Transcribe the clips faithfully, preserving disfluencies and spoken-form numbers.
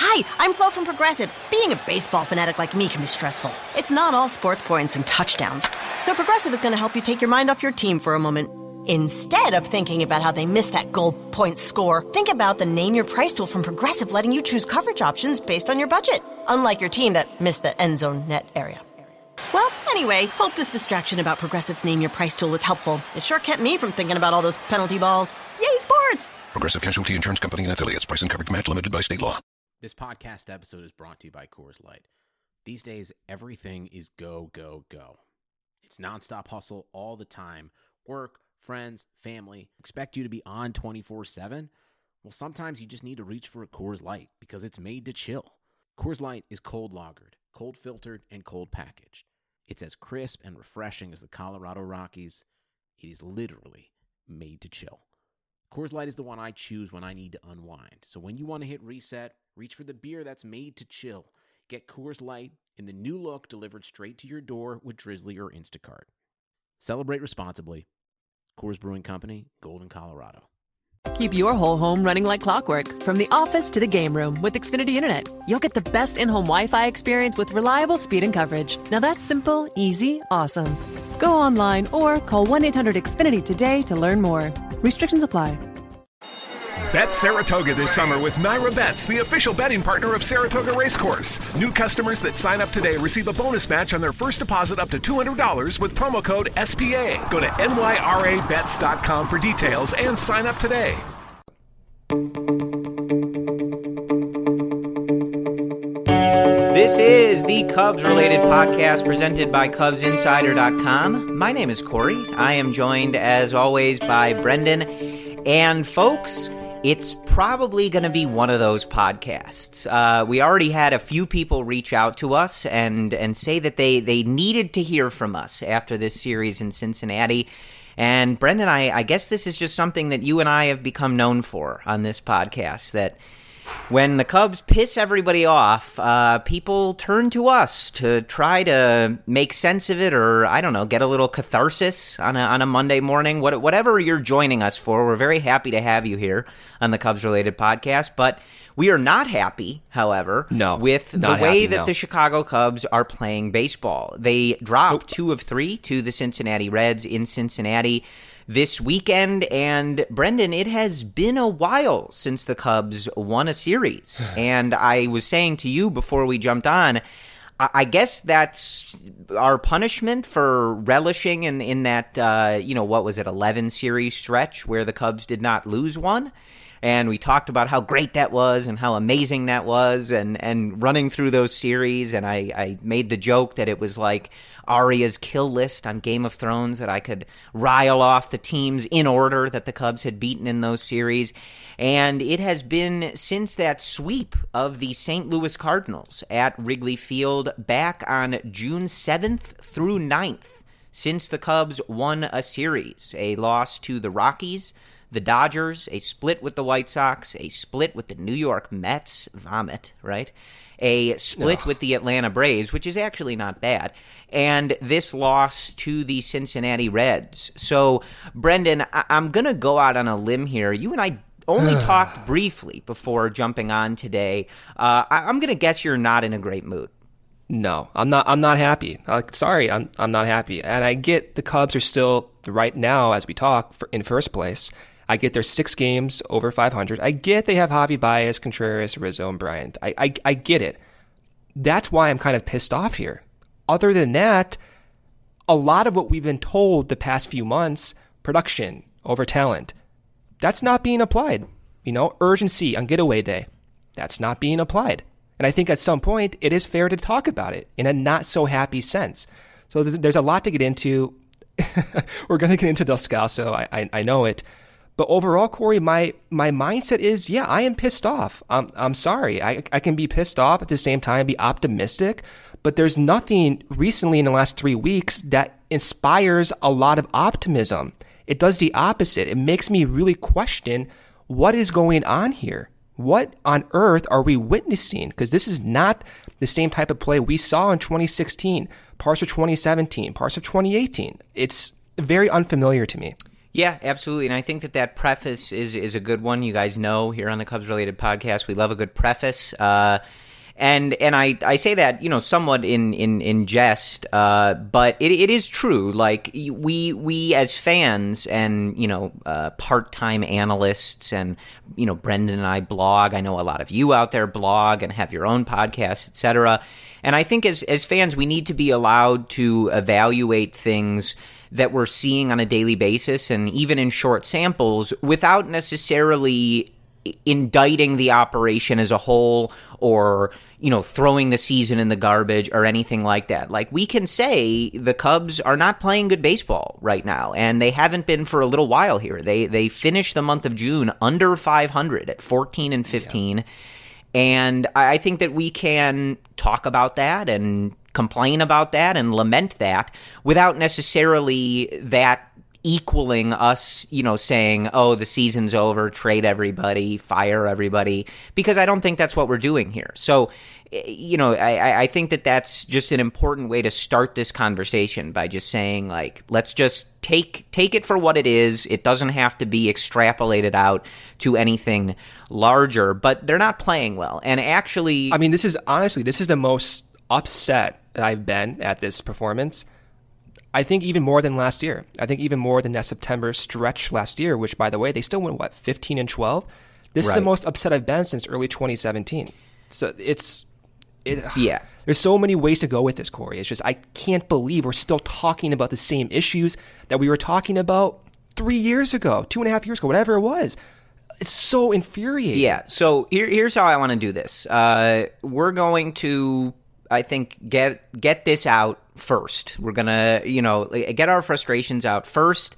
Hi, I'm Flo from Progressive. Being a baseball fanatic like me can be stressful. It's not all sports points and touchdowns. So Progressive is going to help you take your mind off your team for a moment. Instead of thinking about how they missed that goal point score, think about the Name Your Price tool from Progressive, letting you choose coverage options based on your budget. Unlike your team that missed the end zone net area. Well, anyway, hope this distraction about Progressive's Name Your Price tool was helpful. It sure kept me from thinking about all those penalty balls. Yay, sports! Progressive Casualty Insurance Company and Affiliates. Price and coverage match limited by state law. This podcast episode is brought to you by Coors Light. These days, everything is go, go, go. It's nonstop hustle all the time. Work, friends, family, expect you to be on twenty-four seven? Well, sometimes you just need to reach for a Coors Light because it's made to chill. Coors Light is cold lagered, cold filtered, and cold packaged. It's as crisp and refreshing as the Colorado Rockies. It is literally made to chill. Coors Light is the one I choose when I need to unwind. So when you want to hit reset, reach for the beer that's made to chill. Get Coors Light in the new look delivered straight to your door with Drizzly or Instacart. Celebrate responsibly. Coors Brewing Company, Golden, Colorado. Keep your whole home running like clockwork, from the office to the game room with Xfinity Internet. You'll get the best in-home Wi-Fi experience with reliable speed and coverage. Now that's simple, easy, awesome. Go online or call one eight hundred X Finity today to learn more. Restrictions apply. Bet Saratoga this summer with Naira Bets, the official betting partner of Saratoga Racecourse. New customers that sign up today receive a bonus match on their first deposit up to two hundred dollars with promo code S P A. Go to N Y R A bets dot com for details and sign up today. This is the Cubs-related podcast presented by Cubs Insider dot com. My name is Corey. I am joined, as always, by Brendan. And folks, it's probably going to be one of those podcasts. Uh, we already had a few people reach out to us and, and say that they, they needed to hear from us after this series in Cincinnati. And Brendan, I, I guess this is just something that you and I have become known for on this podcast, that when the Cubs piss everybody off, uh, people turn to us to try to make sense of it, or, I don't know, get a little catharsis on a, on a Monday morning. What, whatever you're joining us for, we're very happy to have you here on the Cubs-related podcast. But we are not happy, however, no, with the way happy, that no. the the Chicago Cubs are playing baseball. They dropped nope. two of three to the Cincinnati Reds in Cincinnati this weekend, and Brendan, it has been a while since the Cubs won a series. And I was saying to you before we jumped on, I guess that's our punishment for relishing in, in that, uh, you know, what was it, eleven series stretch where the Cubs did not lose one. And we talked about how great that was and how amazing that was, and, and running through those series. And I, I made the joke that it was like Arya's kill list on Game of Thrones, that I could rile off the teams in order that the Cubs had beaten in those series. And it has been since that sweep of the Saint Louis Cardinals at Wrigley Field back on June seventh through ninth since the Cubs won a series. A loss to the Rockies, the Dodgers, a split with the White Sox, a split with the New York Mets, vomit, right? A split Ugh. with the Atlanta Braves, which is actually not bad, and this loss to the Cincinnati Reds. So, Brendan, I- I'm going to go out on a limb here. You and I only talked briefly before jumping on today. Uh, I- I'm going to guess you're not in a great mood. No, I'm not. I'm not happy. Uh, sorry, I'm. I'm not happy. And I get the Cubs are still right now, as we talk, for, in first place. I get their six games over five hundred. I get they have Javi Baez, Contreras, Rizzo, and Bryant. I, I I get it. That's why I'm kind of pissed off here. Other than that, a lot of what we've been told the past few months, production over talent, that's not being applied. You know, urgency on getaway day, that's not being applied. And I think at some point it is fair to talk about it in a not so happy sense. So there's, there's a lot to get into. We're going to get into Descalso. I, I I know it. But overall, Corey, my my mindset is, yeah, I am pissed off. I'm, I'm sorry. I, I can be pissed off at the same time, be optimistic. But there's nothing recently in the last three weeks that inspires a lot of optimism. It does the opposite. It makes me really question what is going on here. What on earth are we witnessing? Because this is not the same type of play we saw in twenty sixteen, parts of twenty seventeen, parts of twenty eighteen. It's very unfamiliar to me. Yeah, absolutely. And I think that that preface is, is a good one. You guys know here on the Cubs-related podcast, we love a good preface. Uh, and and I, I say that, you know, somewhat in, in, in jest, uh, but it, it is true. Like, we we as fans and, you know, uh, part-time analysts and, you know, Brendan and I blog. I know a lot of you out there blog and have your own podcasts, et cetera. And I think as as fans, we need to be allowed to evaluate things that we're seeing on a daily basis and even in short samples without necessarily indicting the operation as a whole or, you know, throwing the season in the garbage or anything like that. Like, we can say the Cubs are not playing good baseball right now, and they haven't been for a little while here. They they finished the month of June under five hundred at fourteen and fifteen. Yeah. And I think that we can talk about that and complain about that and lament that without necessarily that equaling us, you know, saying, oh, the season's over, trade everybody, fire everybody, because I don't think that's what we're doing here. So, you know, I, I think that that's just an important way to start this conversation by just saying, like, let's just take take it for what it is. It doesn't have to be extrapolated out to anything larger, but they're not playing well. And actually, I mean, this is honestly, this is the most upset that I've been at this performance. I think even more than last year. I think even more than that September stretch last year, which, by the way, they still went, what, fifteen and twelve? This right. is the most upset I've been since early twenty seventeen. So it's... It, yeah. There's so many ways to go with this, Corey. It's just, I can't believe we're still talking about the same issues that we were talking about three years ago, two and a half years ago, whatever it was. It's so infuriating. Yeah. So here, here's how I want to do this. Uh, we're going to, I think, get get this out first. We're going to, you know, get our frustrations out first.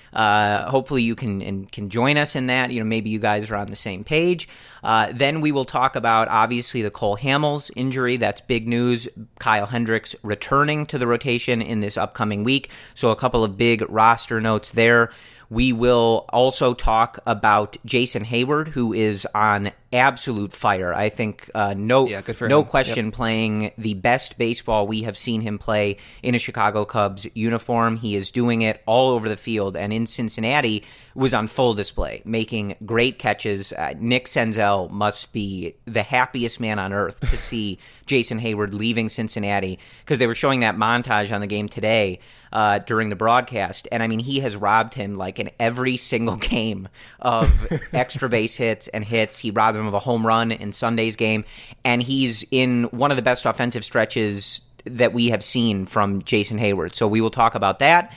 Uh, hopefully you can and can join us in that. You know, maybe you guys are on the same page. Uh, then we will talk about, obviously, the Cole Hamels injury. That's big news. Kyle Hendricks returning to the rotation in this upcoming week. So a couple of big roster notes there. We will also talk about Jason Hayward, who is on absolute fire. I think uh, no yeah, good for no him. question Yep. playing the best baseball we have seen him play in a Chicago Cubs uniform. He is doing it all over the field, and in Cincinnati was on full display, making great catches. Uh, Nick Senzel must be the happiest man on earth to see Jason Hayward leaving Cincinnati, because they were showing that montage on the game today uh, during the broadcast, and I mean, he has robbed him like in every single game of extra base hits and hits. He robbed him of a home run in Sunday's game, and he's in one of the best offensive stretches that we have seen from Jason Hayward. So we will talk about that,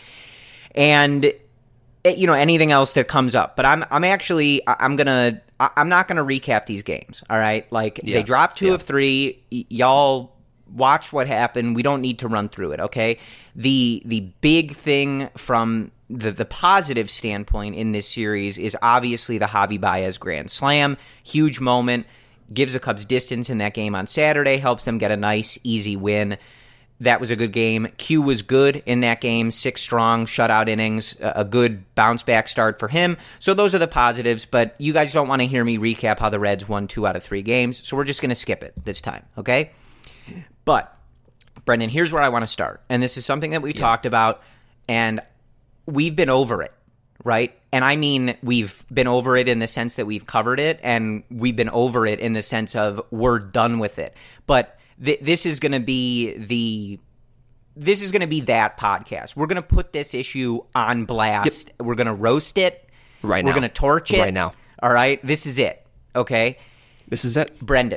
and you know, anything else that comes up. But I'm I'm actually I'm gonna I'm not gonna recap these games. All right, like yeah. they dropped two yeah. of three. Y- y'all watch what happened. We don't need to run through it. Okay, the the big thing from the the positive standpoint in this series is obviously the Javi Baez grand slam. Huge moment. Gives the Cubs distance in that game on Saturday. Helps them get a nice, easy win. That was a good game. Q was good in that game. Six strong shutout innings. A good bounce-back start for him. So those are the positives, but you guys don't want to hear me recap how the Reds won two out of three games, so we're just going to skip it this time, okay? But, Brendan, here's where I want to start. And this is something that we yeah. talked about, and we've been over it, right? And I mean we've been over it in the sense that we've covered it, and we've been over it in the sense of we're done with it. But th- this is going to be the this is going to be that podcast. We're going to put this issue on blast. Yep. We're going to roast it. Right We're now. We're going to torch it. Right now. All right? This is it, okay? This is it. Brendan.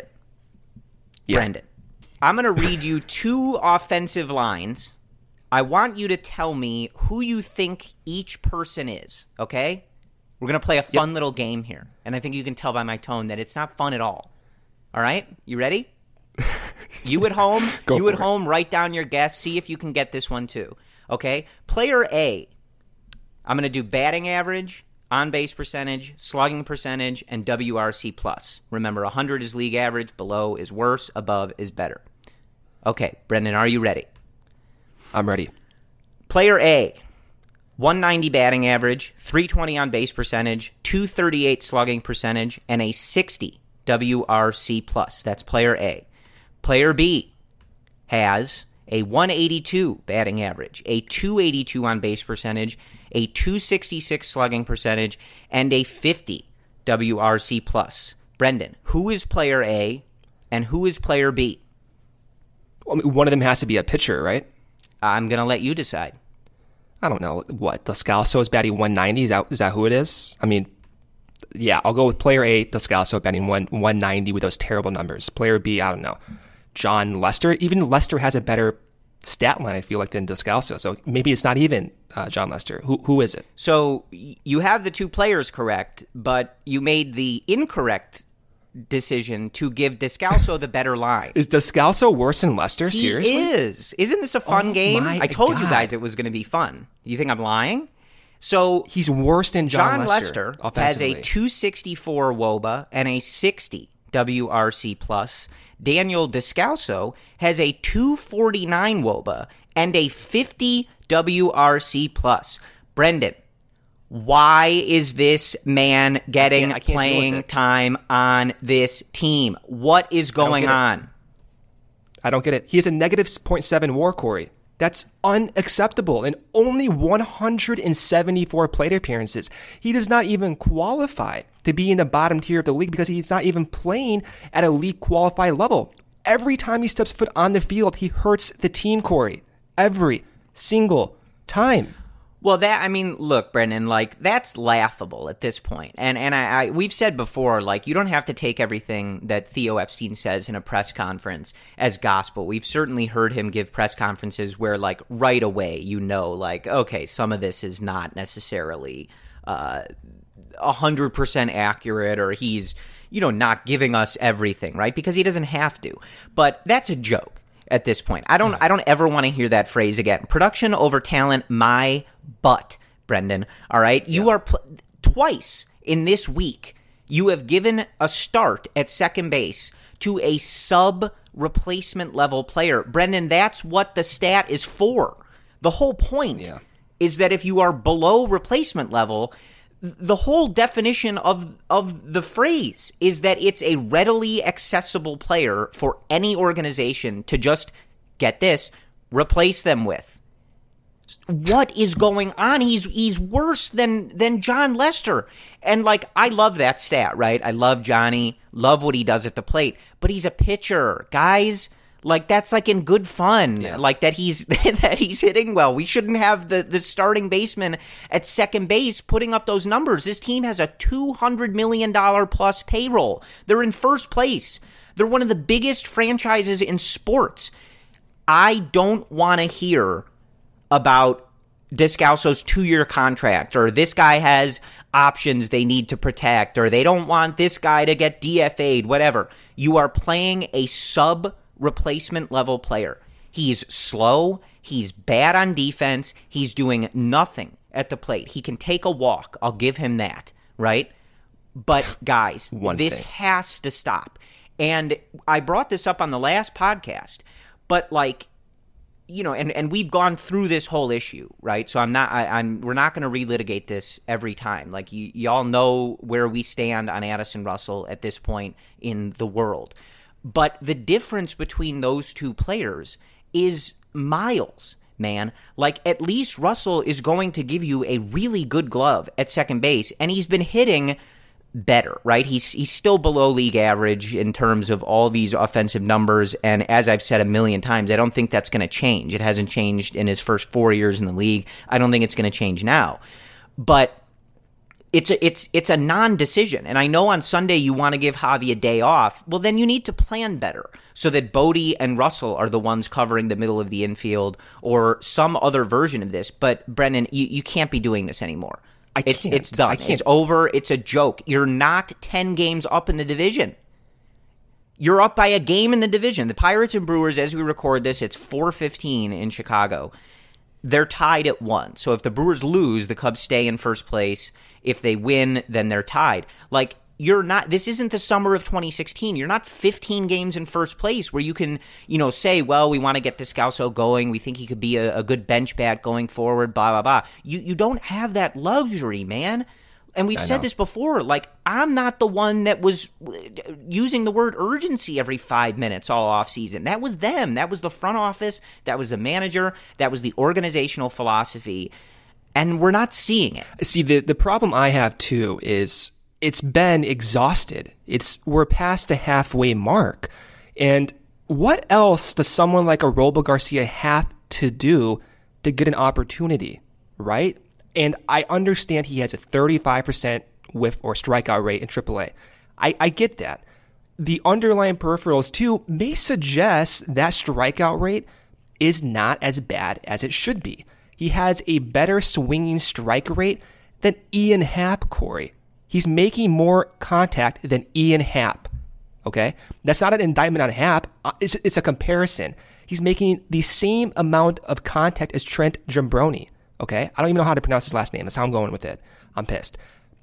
Yeah. Brendan. I'm going to read you two offensive lines. I want you to tell me who you think each person is, okay? We're going to play a fun yep. little game here, and I think you can tell by my tone that it's not fun at all. All right? You ready? You at home, you at it. home, write down your guess. See if you can get this one too, okay? Player A, I'm going to do batting average, on-base percentage, slugging percentage, and W R C plus. Remember, one hundred is league average, below is worse, above is better. Okay, Brendan, are you ready? I'm ready. Player A, one ninety batting average, three twenty on base percentage, two thirty-eight slugging percentage, and a sixty W R C plus. That's player A. Player B has a one eighty-two batting average, a two eighty-two on base percentage, a two sixty-six slugging percentage, and a fifty W R C plus. Brendan, who is player A and who is player B? Well, one of them has to be a pitcher, right? I'm going to let you decide. I don't know. What? Descalso is batting one ninety? Is that, is that who it is? I mean, yeah, I'll go with player A, Descalso, batting one, 190 with those terrible numbers. Player B, I don't know. John Lester? Even Lester has a better stat line, I feel like, than Descalso. So maybe it's not even uh, John Lester. Who Who is it? So you have the two players correct, but you made the incorrect decision to give Descalso the better line. Is Descalso worse than Lester? He Seriously? is. Isn't this a fun oh game? my I told God. you guys it was going to be fun. You think I'm lying? So he's worse than John, John Lester, Lester has a two sixty-four W O B A and a sixty W R C plus. Daniel Descalso has a two forty-nine W O B A and a fifty W R C plus. Brendan, why is this man getting I can't, I can't playing time on this team? What is going I on? I don't get it. He has a negative zero point seven WAR, Corey. That's unacceptable. In only one hundred seventy-four plate appearances, he does not even qualify to be in the bottom tier of the league because he's not even playing at a league qualified level. Every time he steps foot on the field, he hurts the team, Corey. Every single time. Well, that, I mean, look, Brendan, like, that's laughable at this point. And and I, I we've said before, like, you don't have to take everything that Theo Epstein says in a press conference as gospel. We've certainly heard him give press conferences where, like, right away, you know, like, okay, some of this is not necessarily uh, one hundred percent accurate, or he's, you know, not giving us everything, right? Because he doesn't have to. But that's a joke at this point. I don't, I don't ever want to hear that phrase again. Production over talent, my butt, Brendan. All right? You yeah. are pl- twice in this week, you have given a start at second base to a sub-replacement level player. Brendan, that's what the stat is for. The whole point yeah. is that if you are below replacement level, the whole definition of of the phrase is that it's a readily accessible player for any organization to just, get this, replace them with. What is going on? He's he's worse than than John Lester. And, like, I love that stat, right? I love Johnny, love what he does at the plate, but he's a pitcher. Guys, like, that's, like, in good fun, yeah. like, that he's that he's hitting well. We shouldn't have the, the starting baseman at second base putting up those numbers. This team has a two hundred million dollars plus payroll. They're in first place. They're one of the biggest franchises in sports. I don't want to hear about Descalso's two-year contract, or this guy has options they need to protect, or they don't want this guy to get D F A'd, whatever. You are playing a sub-replacement level player. He's slow. He's bad on defense. He's doing nothing at the plate. He can take a walk. I'll give him that, right? But, guys, this thing. has to stop. And I brought this up on the last podcast, but, like, you know, and, and we've gone through this whole issue, right? So I'm not, I, I'm, we're not going to relitigate this every time. Like, you, y'all know where we stand on Addison Russell at this point in the world. But the difference between those two players is miles, man. Like, at least Russell is going to give you a really good glove at second base, and he's been hitting better, right? He's he's still below league average in terms of all these offensive numbers, and as I've said a million times, I don't think that's going to change. It hasn't changed in his first four years in the league. I don't think it's going to change now. But it's a, it's it's a non-decision, and I know on Sunday you want to give Javi a day off. Well, then you need to plan better so that Bodie and Russell are the ones covering the middle of the infield, or some other version of this. But, Brendan, you, you can't be doing this anymore. I it's can't. it's done. I can't. It's over. It's a joke. You're not ten games up in the division. You're up by a game in the division. The Pirates and Brewers, as we record this, it's four fifteen in Chicago. They're tied at one. So if the Brewers lose, the Cubs stay in first place. If they win, then they're tied. Like, you're not, this isn't the summer of twenty sixteen. You're not fifteen games in first place where you can, you know, say, well, we want to get Descalso going. We think he could be a, a good bench bat going forward, blah, blah, blah. You, you don't have that luxury, man. And we've I said know. this before. Like, I'm not the one that was using the word urgency every five minutes all offseason. That was them. That was the front office. That was the manager. That was the organizational philosophy. and we're not seeing it. See, the, the problem I have, too, is it's been exhausted. It's we're past the halfway mark. And what else does someone like Aroldis Garcia have to do to get an opportunity, right? And I understand he has a thirty-five percent whiff or strikeout rate in triple A. I, I get that. The underlying peripherals, too, may suggest that strikeout rate is not as bad as it should be. He has a better swinging strike rate than Ian Happ, Corey. He's making more contact than Ian Happ, okay? That's not an indictment on Happ. It's, it's a comparison. He's making the same amount of contact as Trent Giambrone, okay? I don't even know how to pronounce his last name. That's how I'm going with it. I'm pissed.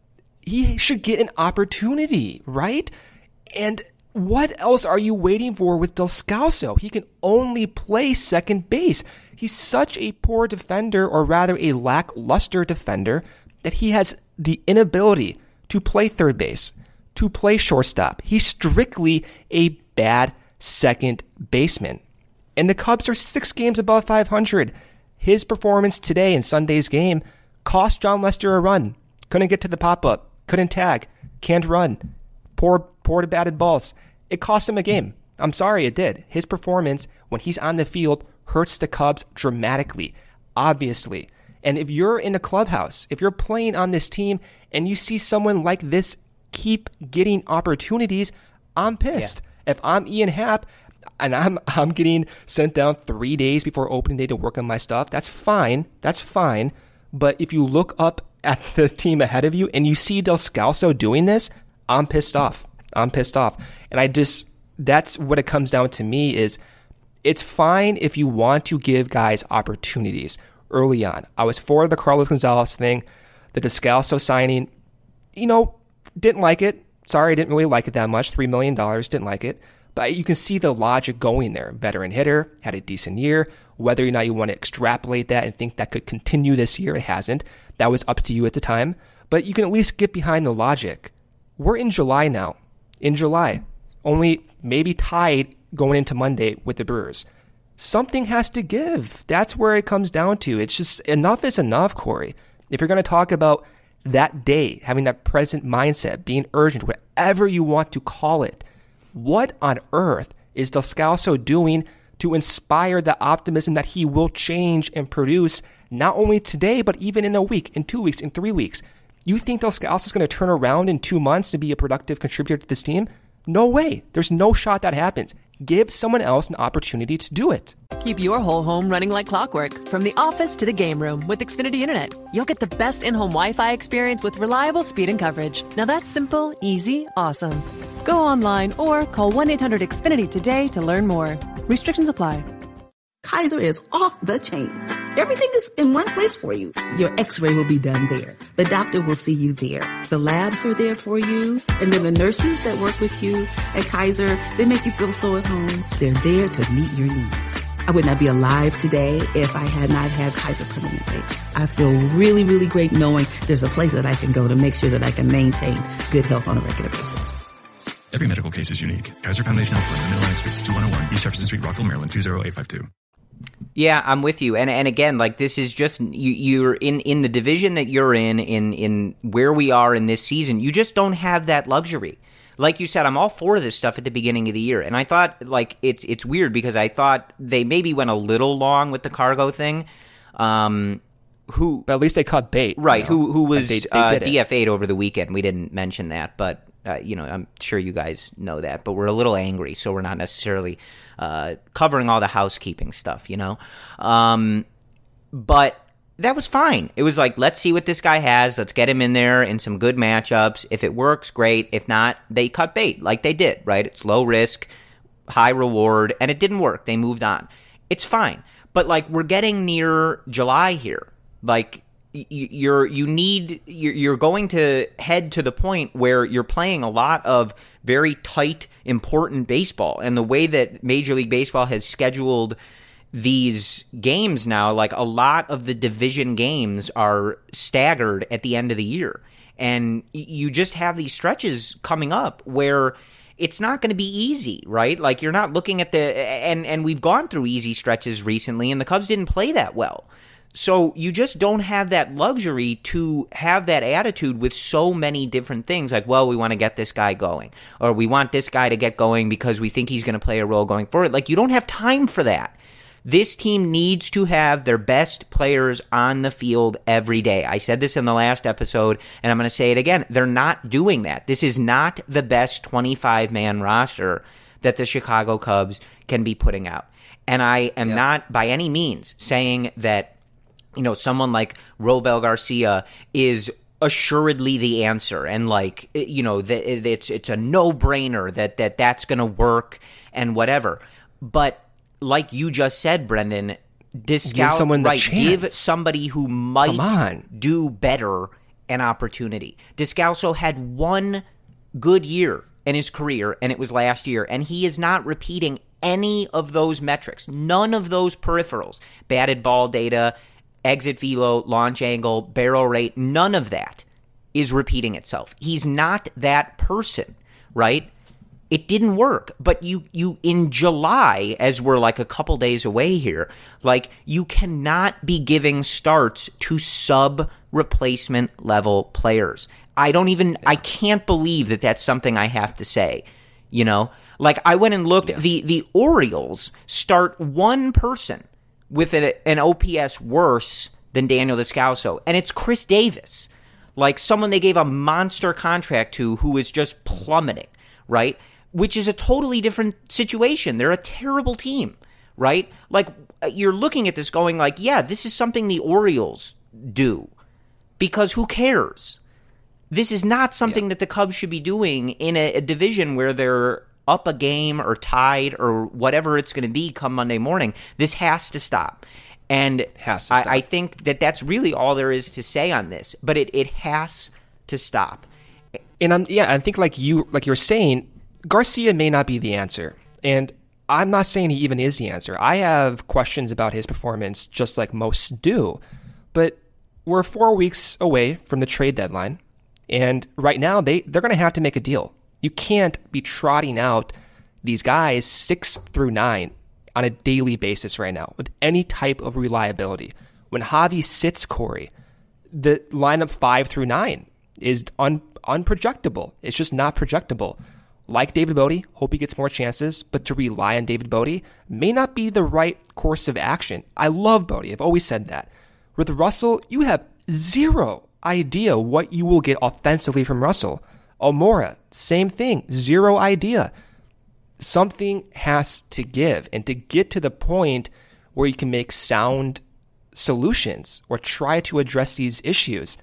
He should get an opportunity, right? And what else are you waiting for with Descalso? He can only play second base. He's such a poor defender, or rather a lackluster defender, that he has the inability to play third base, to play shortstop. He's strictly a bad second baseman. And the Cubs are six games above five hundred. His performance today in Sunday's game cost Jon Lester a run. Couldn't get to the pop-up. Couldn't tag. Can't run. Poor, poor to batted balls. It cost him a game. I'm sorry, it did. His performance, when he's on the field, hurts the Cubs dramatically, obviously. And if you're in a clubhouse, if you're playing on this team, and you see someone like this keep getting opportunities, I'm pissed. Yeah. If I'm Ian Happ, and I'm I'm getting sent down three days before opening day to work on my stuff, that's fine. That's fine. But if you look up at the team ahead of you and you see Descalso doing this, I'm pissed off. I'm pissed off. And I just, that's what it comes down to me is, it's fine if you want to give guys opportunities early on. I was for the Carlos Gonzalez thing, the Descalso signing, you know, didn't like it. Sorry, didn't really like it that much. three million dollars, didn't like it. But you can see the logic going there. Veteran hitter, had a decent year. Whether or not you want to extrapolate that and think that could continue this year, it hasn't. That was up to you at the time. But you can at least get behind the logic. We're in July now. In July. Only maybe tied going into Monday with the Brewers. Something has to give. That's where it comes down to. It's just enough is enough, Corey. If you're going to talk about that day, having that present mindset, being urgent, whatever you want to call it, what on earth is Descalso doing to inspire the optimism that he will change and produce not only today, but even in a week, in two weeks, in three weeks? You think Descalso is going to turn around in two months to be a productive contributor to this team? No way. There's no shot that happens. Give someone else an opportunity to do it. Keep your whole home running like clockwork, from the office to the game room with Xfinity Internet. You'll get the best in-home Wi-Fi experience with reliable speed and coverage. Now that's simple, easy, awesome. Go online or call one eight hundred X Finity today to learn more. Restrictions apply. Kaiser is off the chain. Everything is in one place for you. Your x-ray will be done there. The doctor will see you there. The labs are there for you. And then the nurses that work with you at Kaiser, they make you feel so at home. They're there to meet your needs. I would not be alive today if I had not had Kaiser Permanente. I feel really, really great knowing there's a place that I can go to make sure that I can maintain good health on a regular basis. Every medical case is unique. Kaiser Foundation Health Plan, Atlantic States, two one oh one East Jefferson Street, Rockville, Maryland, two zero eight five two. Yeah, I'm with you. And and again, like this is just you, you're in, in the division that you're in, in in where we are in this season. You just don't have that luxury. Like you said, I'm all for this stuff at the beginning of the year, and I thought like it's it's weird because I thought they maybe went a little long with the cargo thing. Um, who? But at least they caught bait, right? You know? Who who was they, they uh, D F A'd over the weekend? We didn't mention that, but. Uh, you know, I'm sure you guys know that, but we're a little angry, so we're not necessarily uh, covering all the housekeeping stuff, you know? Um, but that was fine. It was like, let's see what this guy has. Let's get him in there in some good matchups. If it works, great. If not, they cut bait like they did, right? It's low risk, high reward, and it didn't work. They moved on. It's fine. But, like, we're getting near July here. Like, You're you need you're going to head to the point where you're playing a lot of very tight, important baseball, and the way that Major League Baseball has scheduled these games now, like a lot of the division games are staggered at the end of the year, and you just have these stretches coming up where it's not going to be easy, right? Like you're not looking at the and and we've gone through easy stretches recently, and the Cubs didn't play that well. So you just don't have that luxury to have that attitude with so many different things. Like, well, we want to get this guy going, or we want this guy to get going because we think he's going to play a role going forward. Like, you don't have time for that. This team needs to have their best players on the field every day. I said this in the last episode, and I'm going to say it again. They're not doing that. This is not the best twenty-five man roster that the Chicago Cubs can be putting out. And I am yeah. not by any means saying that, you know, someone like Robel Garcia is assuredly the answer, and like, you know, that it's it's a no-brainer that, that that's going to work and whatever. But like you just said, Brendan, discount, give someone the right, chance. Give somebody who might do better an opportunity. Descalso had one good year in his career, and it was last year, and he is not repeating any of those metrics, none of those peripherals, batted ball data, exit velo, launch angle, barrel rate, none of that is repeating itself. He's not that person, right? It didn't work. But you, you in July, as we're like a couple days away here, like, you cannot be giving starts to sub-replacement level players. I don't even, yeah. I can't believe that that's something I have to say, you know? Like, I went and looked, yeah. the, the Orioles start one person with a, an O P S worse than Daniel Descalso, and it's Chris Davis, like someone they gave a monster contract to who is just plummeting, right? Which is a totally different situation. They're a terrible team, right? Like, you're looking at this going like, yeah, this is something the Orioles do, because who cares? This is not something yeah. that the Cubs should be doing in a, a division where they're up a game or tied or whatever it's going to be come Monday morning. This has to stop. And has to I, stop. I think that that's really all there is to say on this. But it, it has to stop. And I'm, yeah, I think like you like you're saying, Garcia may not be the answer. And I'm not saying he even is the answer. I have questions about his performance just like most do. But we're four weeks away from the trade deadline. And right now, they, they're going to have to make a deal. You can't be trotting out these guys six through nine on a daily basis right now with any type of reliability. When Javi sits Corey, the lineup five through nine is un, unprojectable. It's just not projectable. Like David Bote, hope he gets more chances, but to rely on David Bote may not be the right course of action. I love Bote. I've always said that. With Russell, you have zero idea what you will get offensively from Russell. Almora, same thing, zero idea. Something has to give, and to get to the point where you can make sound solutions or try to address these issues,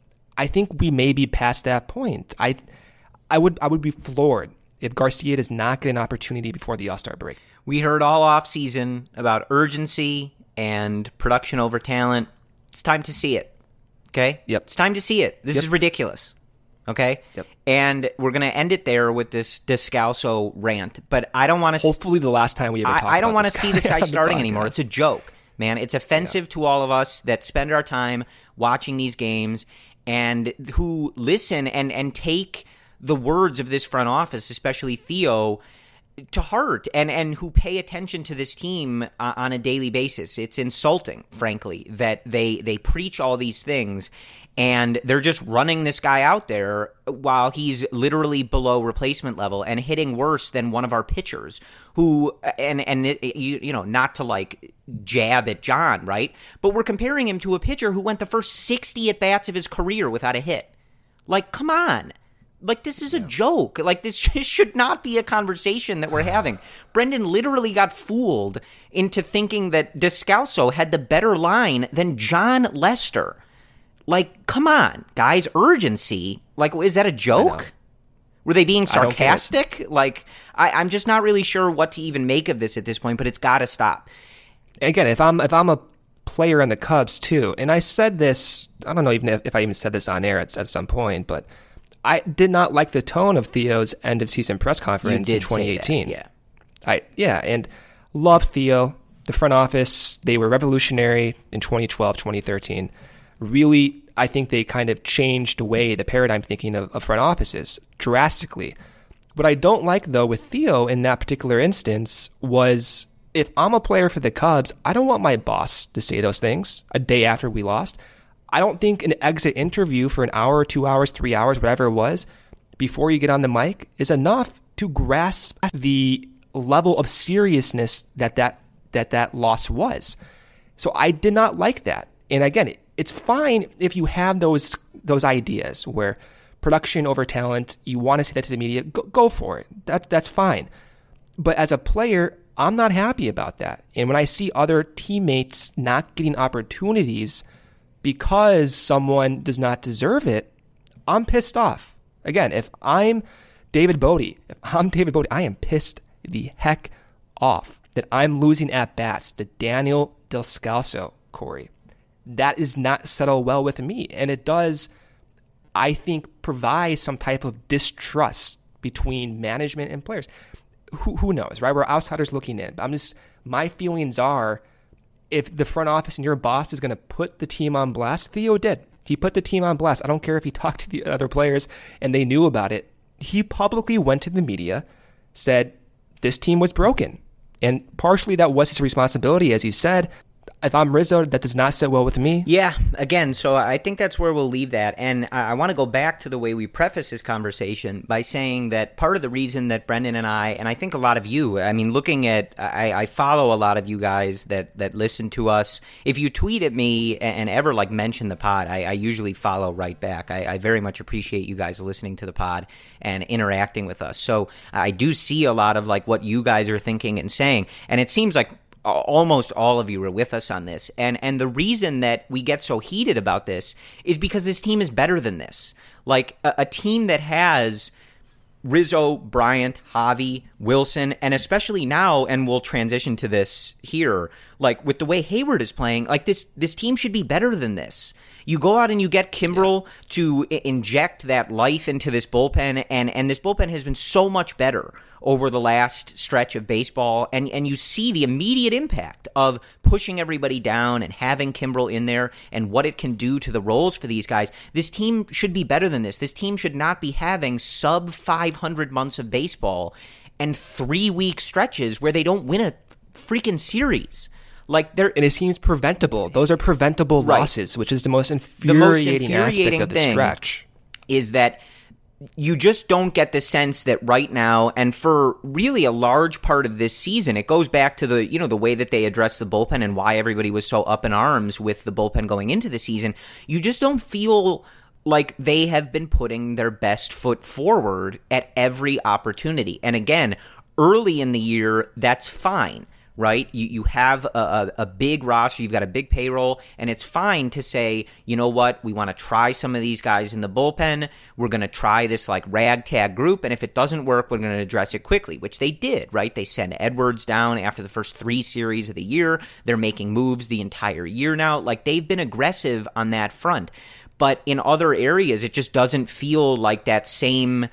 I think we may be past that point. I, I would, I would be floored if Garcia does not get an opportunity before the All-Star break. We heard all offseason about urgency and production over talent. It's time to see it. Okay? Yep. It's time to see it. This yep. is ridiculous. Okay? Yep. And we're going to end it there with this Descalso rant. But I don't want to... Hopefully the last time we ever talk I, I don't want to see this guy starting anymore. It's a joke, man. It's offensive yeah. to all of us that spend our time watching these games and who listen and, and take the words of this front office, especially Theo, to heart, and, and who pay attention to this team uh, on a daily basis. It's insulting, frankly, that they, they preach all these things and they're just running this guy out there while he's literally below replacement level and hitting worse than one of our pitchers who, and, and it, you, you know, not to like jab at John, right? But we're comparing him to a pitcher who went the first sixty at-bats of his career without a hit. Like, come on. Like, this is a yeah. joke. Like, this should not be a conversation that we're having. Brendan literally got fooled into thinking that Descalso had the better line than John Lester. Like, come on, guys. Urgency. Like, is that a joke? Were they being sarcastic? I like, I, I'm just not really sure what to even make of this at this point, but it's got to stop. Again, if I'm if I'm a player in the Cubs, too, and I said this, I don't know even if, if I even said this on air at, at some point, but I did not like the tone of Theo's end of season press conference in twenty eighteen. That, yeah. I yeah, and loved Theo. The front office, they were revolutionary in twenty twelve, twenty thirteen. Really, I think they kind of changed the way the paradigm thinking of, of front offices drastically. What I don't like, though, with Theo in that particular instance was if I'm a player for the Cubs, I don't want my boss to say those things a day after we lost. I don't think an exit interview for an hour, two hours, three hours, whatever it was, before you get on the mic is enough to grasp the level of seriousness that that, that, that loss was. So I did not like that. And again, it, it's fine if you have those those ideas where production over talent, you want to say that to the media, go, go for it. That, that's fine. But as a player, I'm not happy about that. And when I see other teammates not getting opportunities because someone does not deserve it, I'm pissed off. Again, if I'm David Bodie, if I'm David Bodie, I am pissed the heck off that I'm losing at-bats to Daniel Descalso, Corey. That is not settle well with me. And it does, I think, provide some type of distrust between management and players. Who, who knows, right? We're outsiders looking in. I'm just, my feelings are, if the front office and your boss is going to put the team on blast, Theo did. He put the team on blast. I don't care if he talked to the other players and they knew about it. He publicly went to the media, said this team was broken. And partially that was his responsibility, as he said. If I'm Rizzo, that does not sit well with me. Yeah, again, so I think that's where we'll leave that. And I want to go back to the way we preface this conversation by saying that part of the reason that Brendan and I, and I think a lot of you, I mean, looking at, I, I follow a lot of you guys that, that listen to us. If you tweet at me and ever like mention the pod, I, I usually follow right back. I, I very much appreciate you guys listening to the pod and interacting with us. So I do see a lot of like what you guys are thinking and saying. And it seems like almost all of you are with us on this. And and the reason that we get so heated about this is because this team is better than this. Like a, a team that has Rizzo, Bryant, Javi, Wilson, and especially now, and we'll transition to this here, like with the way Hayward is playing, like this this team should be better than this. You go out and you get Kimbrel yeah. to I- inject that life into this bullpen, and, and this bullpen has been so much better over the last stretch of baseball, and, and you see the immediate impact of pushing everybody down and having Kimbrel in there and what it can do to the roles for these guys. This team should be better than this. This team should not be having sub five hundred months of baseball and three-week stretches where they don't win a freaking series. Like they're, and it seems preventable. Those are preventable right. losses, which is the most infuriating, the most infuriating aspect of the thing stretch. Is that you just don't get the sense that right now, and for really a large part of this season, it goes back to the, you know, the way that they addressed the bullpen and why everybody was so up in arms with the bullpen going into the season. You just don't feel like they have been putting their best foot forward at every opportunity. And again, early in the year, that's fine. Right? You you have a, a, a big roster, you've got a big payroll, and it's fine to say, you know what, we want to try some of these guys in the bullpen. We're going to try this like ragtag group, and if it doesn't work, we're going to address it quickly, which they did, right? They sent Edwards down after the first three series of the year. They're making moves the entire year now. Like, they've been aggressive on that front. But in other areas, it just doesn't feel like that same...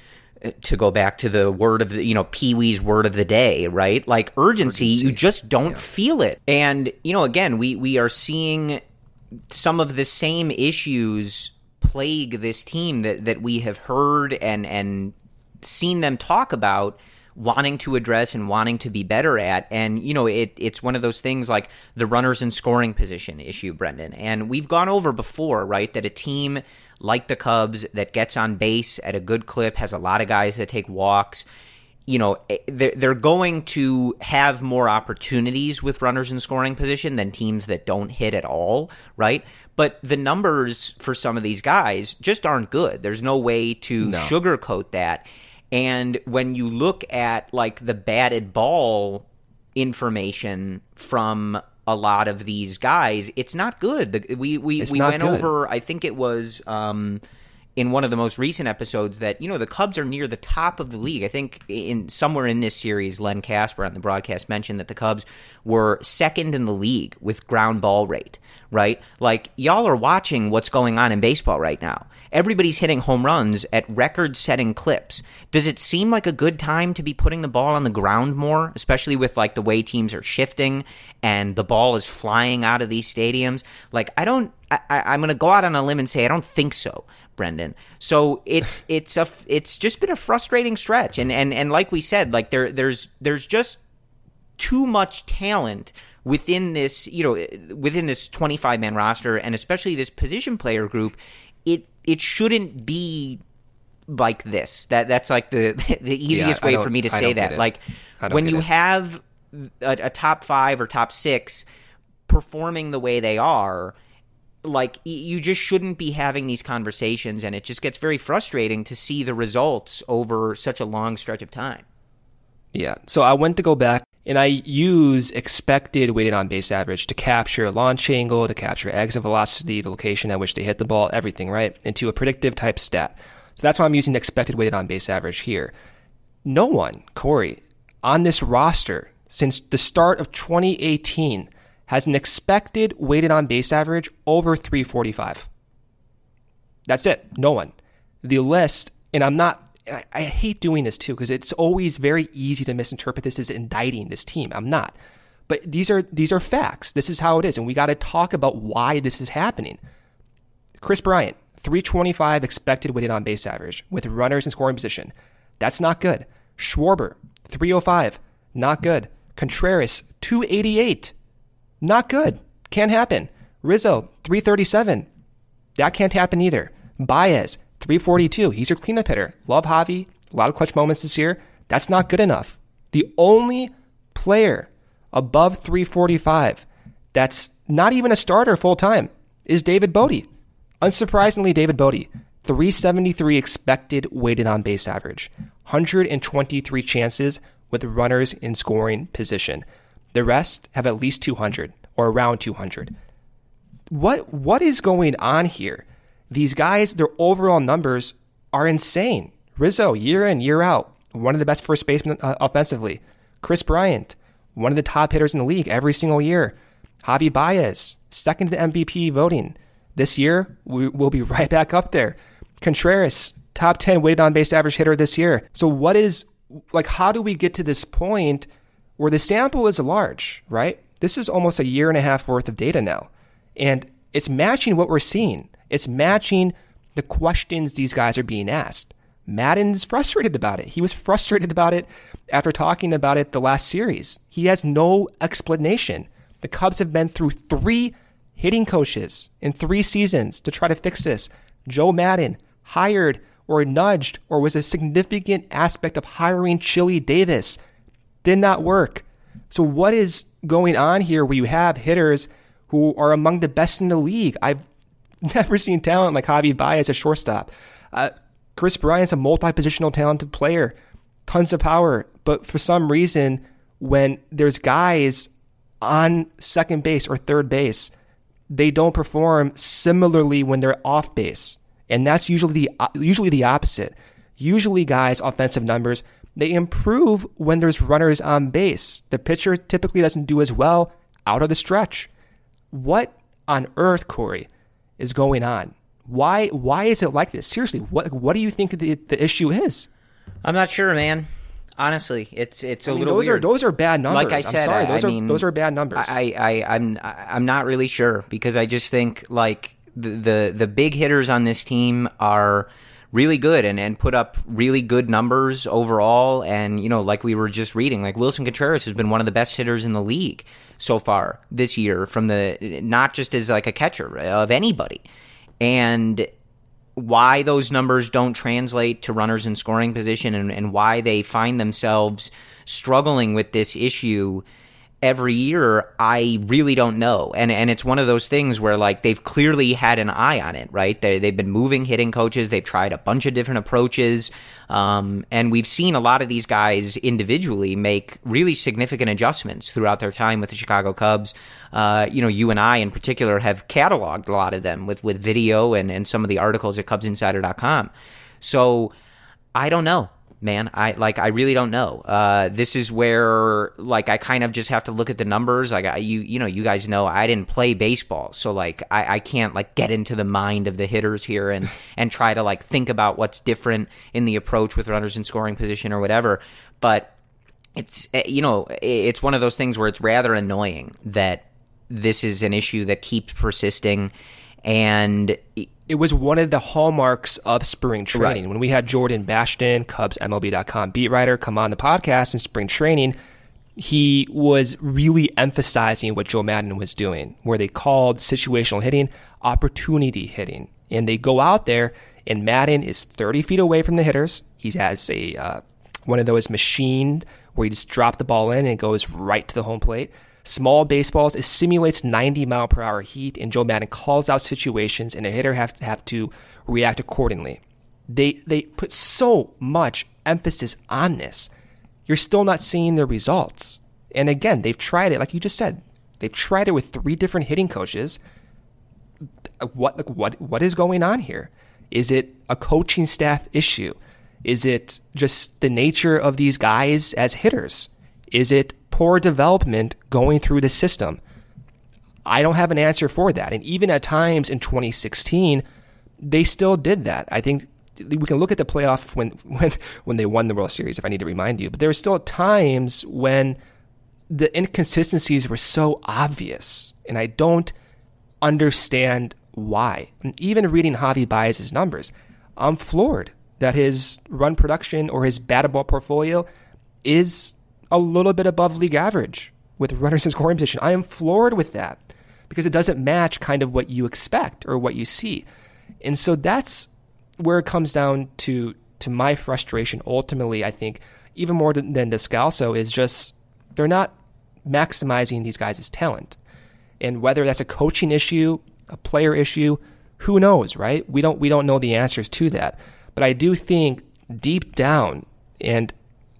To go back to the word of the, you know, Pee Wee's word of the day, right? Like urgency, urgency. you just don't yeah. feel it. And, you know, again, we, we are seeing some of the same issues plague this team that, that we have heard and, and seen them talk about wanting to address and wanting to be better at. And, you know, it it's one of those things like the runners in scoring position issue, Brendan. And we've gone over before, right, that a team like the Cubs that gets on base at a good clip, has a lot of guys that take walks, you know, they're, they're going to have more opportunities with runners in scoring position than teams that don't hit at all, right? But the numbers for some of these guys just aren't good. There's no way to no. sugarcoat that. And when you look at, like, the batted ball information from a lot of these guys, it's not good. The, we we, we went good. over, I think it was um, in one of the most recent episodes that, you know, the Cubs are near the top of the league. I think in somewhere in this series, Len Casper on the broadcast mentioned that the Cubs were second in the league with ground ball rate, right? Like, y'all are watching what's going on in baseball right now. Everybody's hitting home runs at record-setting clips. Does it seem like a good time to be putting the ball on the ground more, especially with, like, the way teams are shifting and the ball is flying out of these stadiums? Like, I don't I, – I'm going to go out on a limb and say I don't think so, Brendan. So it's it's a it's just been a frustrating stretch. And and, and like we said, like there there's there's just too much talent within this, you know, within this twenty-five man roster, and especially this position player group. It it shouldn't be like this. That that's like the the easiest yeah, way for me to say that. Like when you it. have a, a top five or top six performing the way they are, like you just shouldn't be having these conversations, and it just gets very frustrating to see the results over such a long stretch of time. Yeah. So I went to go back and I use expected weighted on base average to capture launch angle, to capture exit velocity, the location at which they hit the ball, everything, right? Into a predictive type stat. So that's why I'm using the expected weighted on base average here. No one, Corey, on this roster since the start of twenty eighteen has an expected weighted on base average over three forty-five. That's it. No one. The list, and I'm not, I, I hate doing this too because it's always very easy to misinterpret this as indicting this team. I'm not. But these are these are facts. This is how it is, and we got to talk about why this is happening. Kris Bryant, three twenty-five expected weighted on base average with runners in scoring position. That's not good. Schwarber, three oh five, not good. Contreras, two eighty-eight. Not good. Can't happen. Rizzo, three thirty-seven. That can't happen either. Baez, three forty-two. He's your cleanup hitter. Love Javi. A lot of clutch moments this year. That's not good enough. The only player above three forty-five that's not even a starter full-time is David Bote. Unsurprisingly, David Bote, three seventy-three expected weighted on base average. one hundred twenty-three chances with runners in scoring position. The rest have at least two hundred or around two hundred. What what is going on here? These guys, their overall numbers are insane. Rizzo, year in, year out, one of the best first basemen uh, offensively. Kris Bryant, one of the top hitters in the league every single year. Javi Baez, second to the M V P voting. This year, we, we'll be right back up there. Contreras, top ten weighted on base average hitter this year. So what is, like, how do we get to this point where the sample is large, right? This is almost a year and a half worth of data now. And it's matching what we're seeing. It's matching the questions these guys are being asked. Maddon's frustrated about it. He was frustrated about it after talking about it the last series. He has no explanation. The Cubs have been through three hitting coaches in three seasons to try to fix this. Joe Maddon hired or nudged or was a significant aspect of hiring Chili Davis. Did not work. So what is going on here where you have hitters who are among the best in the league? I've never seen talent like Javi Baez as shortstop. Uh, Kris Bryant's a multi-positional talented player. Tons of power. But for some reason, when there's guys on second base or third base, they don't perform similarly when they're off base. And that's usually the, usually the opposite. Usually guys' offensive numbers, they improve when there's runners on base. The pitcher typically doesn't do as well out of the stretch. What on earth, Corey, is going on? Why why is it like this? Seriously, what what do you think the the issue is? I'm not sure, man. Honestly, it's it's a I mean, little those weird. Are those are bad numbers. Like I said, I'm sorry, I, those I are mean, those are bad numbers. I, I I'm I'm not really sure because I just think like the the, the big hitters on this team are really good and, and put up really good numbers overall. And, you know, like we were just reading, like Wilson Contreras has been one of the best hitters in the league so far this year from the, not just as like a catcher of anybody. And why those numbers don't translate to runners in scoring position and, and why they find themselves struggling with this issue every year, I really don't know. And and it's one of those things where, like, they've clearly had an eye on it, right? They, they've been moving hitting coaches. They've tried a bunch of different approaches. Um, and we've seen a lot of these guys individually make really significant adjustments throughout their time with the Chicago Cubs. Uh, you know, you and I in particular have cataloged a lot of them with, with video and, and some of the articles at Cubs Insider dot com. So I don't know. Man, I like. I really don't know. Uh, this is where, like, I kind of just have to look at the numbers. Like, I, you, you know, you guys know I didn't play baseball, so like, I, I can't like get into the mind of the hitters here and and try to like think about what's different in the approach with runners in scoring position or whatever. But it's, you know, it's one of those things where it's rather annoying that this is an issue that keeps persisting. And it was one of the hallmarks of spring training. Right. When we had Jordan Bashton, Cubs M L B dot com beat writer, come on the podcast in spring training, he was really emphasizing what Joe Maddon was doing, where they called situational hitting opportunity hitting. And they go out there, and Maddon is thirty feet away from the hitters. He has a uh, one of those machine where you just drop the ball in and it goes right to the home plate. Small baseballs, it simulates ninety mile per hour heat, and Joe Maddon calls out situations, and a hitter have to have to react accordingly. They they put so much emphasis on this. You're still not seeing the results. And again, they've tried it, like you just said. They've tried it with three different hitting coaches. What like, what what is going on here? Is it a coaching staff issue? Is it just the nature of these guys as hitters? Is it poor development going through the system? I don't have an answer for that. And even at times in twenty sixteen, they still did that. I think we can look at the playoff when when when they won the World Series, if I need to remind you. But there were still times when the inconsistencies were so obvious, and I don't understand why. And even reading Javi Baez's numbers, I'm floored that his run production or his batted ball portfolio is a little bit above league average with runners in scoring position. I am floored with that because it doesn't match kind of what you expect or what you see. And so that's where it comes down to to my frustration. Ultimately, I think even more than, than Descalso is just they're not maximizing these guys' talent. And whether that's a coaching issue, a player issue, who knows, right? We don't we don't know the answers to that. But I do think deep down, and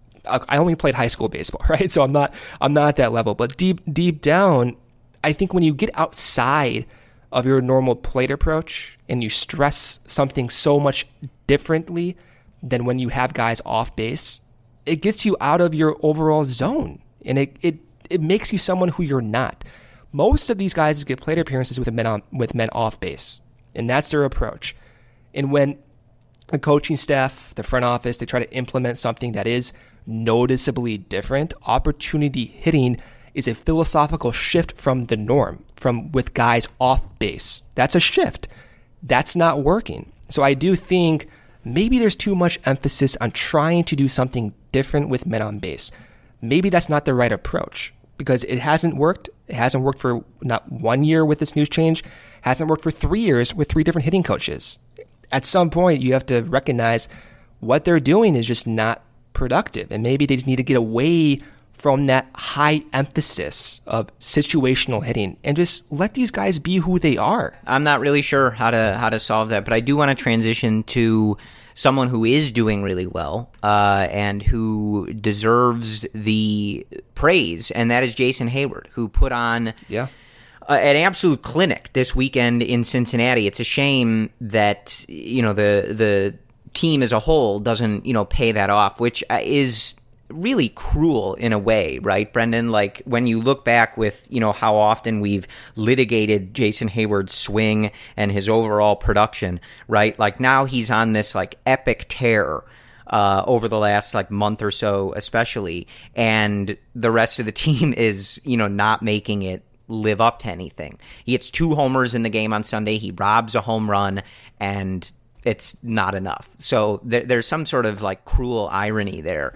I only played high school baseball, right? So I'm not I'm not at that level. But deep deep down, I think when you get outside of your normal plate approach and you stress something so much differently than when you have guys off base, it gets you out of your overall zone, and it it, it makes you someone who you're not. Most of these guys get plate appearances with men on, with men off base, and that's their approach. And when the coaching staff, the front office, they try to implement something that is noticeably different, opportunity hitting is a philosophical shift from the norm, from with guys off base. That's a shift. That's not working. So I do think maybe there's too much emphasis on trying to do something different with men on base. Maybe that's not the right approach because it hasn't worked. It hasn't worked for not one year with this news change. It hasn't worked for three years with three different hitting coaches. At some point, you have to recognize what they're doing is just not productive. And maybe they just need to get away from that high emphasis of situational hitting and just let these guys be who they are. I'm not really sure how to how to solve that, but I do want to transition to someone who is doing really well uh, and who deserves the praise, and that is Jason Heyward, who put on yeah. uh, an absolute clinic this weekend in Cincinnati. It's a shame that you know the the team as a whole doesn't you know pay that off, which is really cruel in a way, right, Brendan? Like when you look back with, you know, how often we've litigated Jason Heyward's swing and his overall production, right? Like now he's on this like epic tear uh, over the last like month or so, especially, and the rest of the team is, you know, not making it live up to anything. He hits two homers in the game on Sunday. He robs a home run, and it's not enough. So there, there's some sort of like cruel irony there.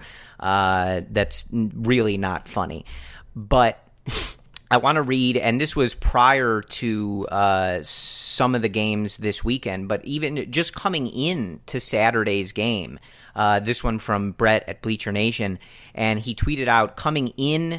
Uh, that's really not funny. But I want to read, and this was prior to uh, some of the games this weekend, but even just coming in to Saturday's game, uh, this one from Brett at Bleacher Nation, and he tweeted out, coming in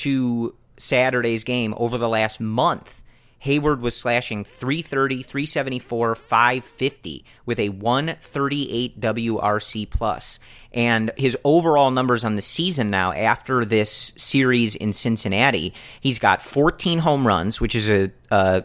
to Saturday's game over the last month, Heyward was slashing three thirty, three seventy-four, five fifty with a one thirty-eight W R C plus. And his overall numbers on the season now after this series in Cincinnati, he's got fourteen home runs, which is a, a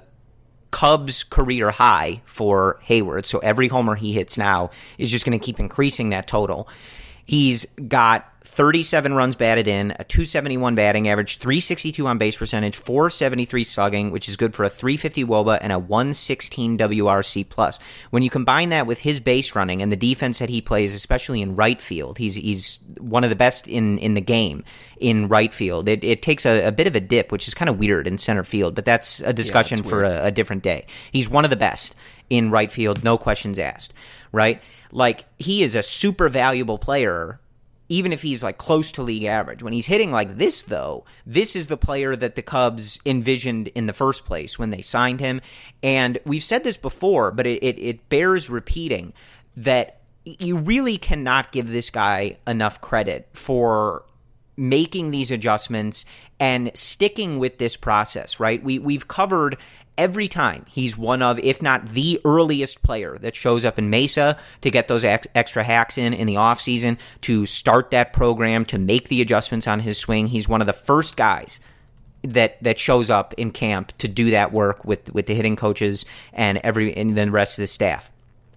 Cubs career high for Heyward. So every homer he hits now is just going to keep increasing that total. He's got thirty-seven runs batted in, a two seventy-one batting average, three sixty-two on base percentage, four seventy-three slugging, which is good for a three fifty W O B A and a one sixteen W R C plus. When you combine that with his base running and the defense that he plays, especially in right field, he's he's one of the best in, in the game in right field. It, it takes a, a bit of a dip, which is kind of weird in center field, but that's a discussion yeah, that's for a, a different day. He's one of the best in right field, no questions asked, right? Like, he is a super valuable player even if he's like close to league average. When he's hitting like this, though, this is the player that the Cubs envisioned in the first place when they signed him. And we've said this before, but it, it, it bears repeating that you really cannot give this guy enough credit for making these adjustments and sticking with this process, right? We, we've covered every time he's one of, if not the earliest player that shows up in Mesa to get those ex- extra hacks in in the offseason, to start that program, to make the adjustments on his swing. He's one of the first guys that that shows up in camp to do that work with, with the hitting coaches and every and the rest of the staff.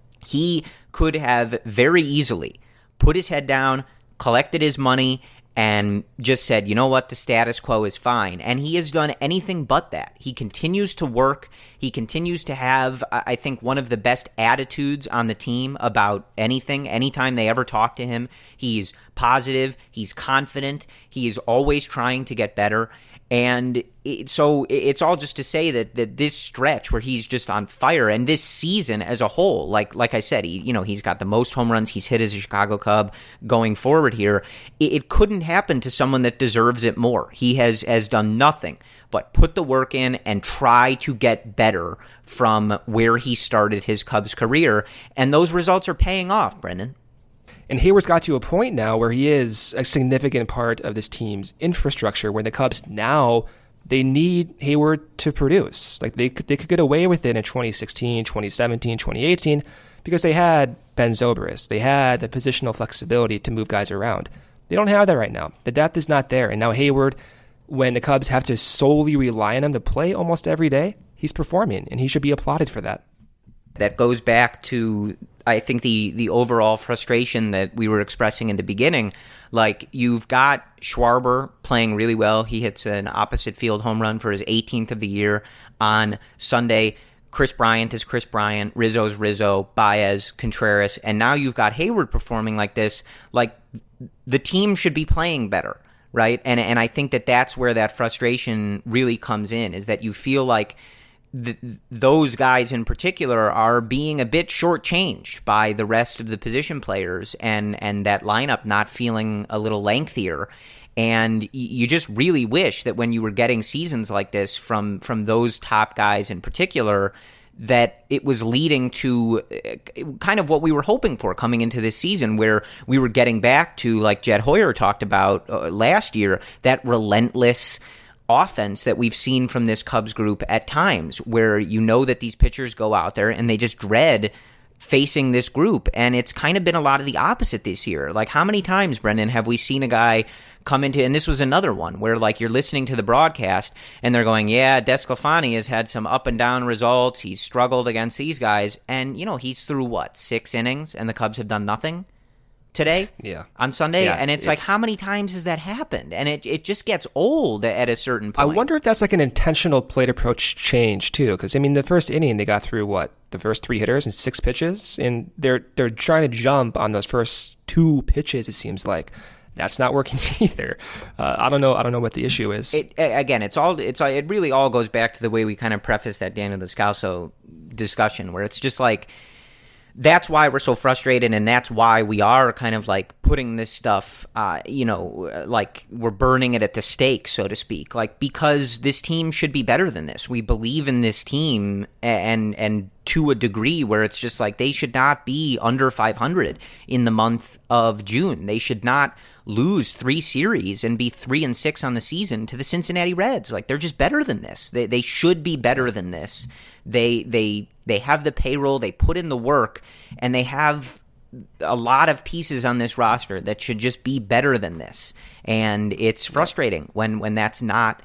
He could have very easily put his head down, collected his money, and just said, you know what, the status quo is fine. And he has done anything but that. He continues to work. He continues to have, I think, one of the best attitudes on the team about anything. Anytime they ever talk to him, he's positive, he's confident, he is always trying to get better. And it, so it's all just to say that, that this stretch where he's just on fire, and this season as a whole, like like I said, he you know he's got the most home runs he's hit as a Chicago Cub going forward here. It, it couldn't happen to someone that deserves it more. He has has done nothing but put the work in and try to get better from where he started his Cubs career, and those results are paying off, Brendan. And Heyward's got to a point now where he is a significant part of this team's infrastructure, where the Cubs now, they need Heyward to produce. Like they could, they could get away with it in twenty sixteen, twenty seventeen, twenty eighteen because they had Ben Zobrist. They had the positional flexibility to move guys around. They don't have that right now. The depth is not there. And now Heyward, when the Cubs have to solely rely on him to play almost every day, he's performing, and he should be applauded for that. That goes back to, I think, the the overall frustration that we were expressing in the beginning. Like, you've got Schwarber playing really well. He hits an opposite field home run for his eighteenth of the year on Sunday. Chris Bryant is Chris Bryant. Rizzo's Rizzo. Baez, Contreras. And now you've got Heyward performing like this. Like, the team should be playing better, right? And, and I think that that's where that frustration really comes in, is that you feel like Th- those guys in particular are being a bit shortchanged by the rest of the position players, and, and that lineup not feeling a little lengthier. And y- you just really wish that when you were getting seasons like this from, from those top guys in particular, that it was leading to kind of what we were hoping for coming into this season, where we were getting back to, like Jed Hoyer talked about uh, last year, that relentless offense that we've seen from this Cubs group at times, where you know that these pitchers go out there and they just dread facing this group. And it's kind of been a lot of the opposite this year. Like, how many times, Brendan, have we seen a guy come into, and this was another one where, like, you're listening to the broadcast and they're going, yeah, DeSclafani has had some up and down results. He's struggled against these guys. And, you know, he's through what, six innings, and the Cubs have done nothing today yeah. on Sunday. Yeah, and it's, it's like, how many times has that happened? And it, it just gets old at a certain point. I wonder if that's like an intentional plate approach change too, because I mean, the first inning they got through what, the first three hitters and six pitches, and they're they're trying to jump on those first two pitches. It seems like that's not working either. Uh, I don't know. I don't know what the issue is. It, again, it's all it's it really all goes back to the way we kind of preface that Daniel Descalso discussion, where it's just like, that's why we're so frustrated, and that's why we are kind of like putting this stuff, uh, you know, like we're burning it at the stake, so to speak, like, because this team should be better than this. We believe in this team, and and to a degree where it's just like they should not be under five hundred in the month of June. They should not lose three series and be three and six on the season to the Cincinnati Reds. Like, they're just better than this. They they should be better than this. They they they have the payroll, they put in the work, and they have a lot of pieces on this roster that should just be better than this. And it's frustrating when when that's not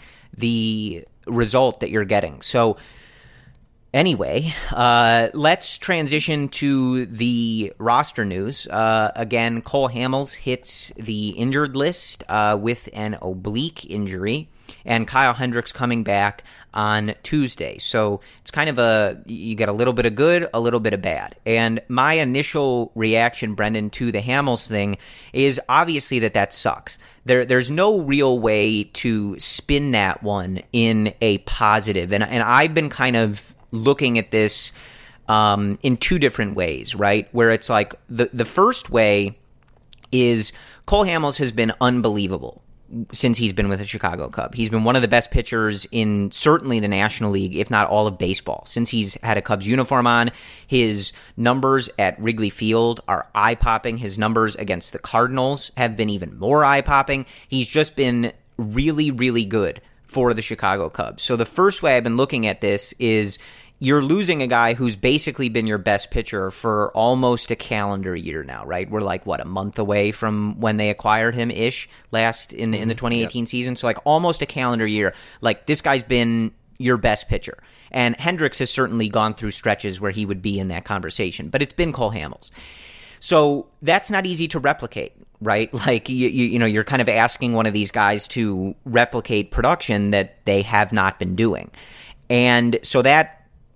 the result that you're getting. So anyway, uh, let's transition to the roster news. Uh, again, Cole Hamels hits the injured list uh, with an oblique injury, and Kyle Hendricks coming back on Tuesday. So it's kind of a, you get a little bit of good, a little bit of bad. And my initial reaction, Brendan, to the Hamels thing is obviously that that sucks. There, there's no real way to spin that one in a positive. And, and I've been kind of looking at this um, in two different ways, right? Where it's like the, the first way is Cole Hamels has been unbelievable since he's been with the Chicago Cubs. He's been one of the best pitchers in certainly the National League, if not all of baseball. Since he's had a Cubs uniform on, his numbers at Wrigley Field are eye-popping. His numbers against the Cardinals have been even more eye-popping. He's just been really, really good for the Chicago Cubs. So the first way I've been looking at this is you're losing a guy who's basically been your best pitcher for almost a calendar year now, right? We're like, what, a month away from when they acquired him-ish last in, in the twenty eighteen yep. season? So like almost a calendar year. Like this guy's been your best pitcher. And Hendricks has certainly gone through stretches where he would be in that conversation, but it's been Cole Hamels. So that's not easy to replicate, right? Like, you, you, you know, you're kind of asking one of these guys to replicate production that they have not been doing. And so that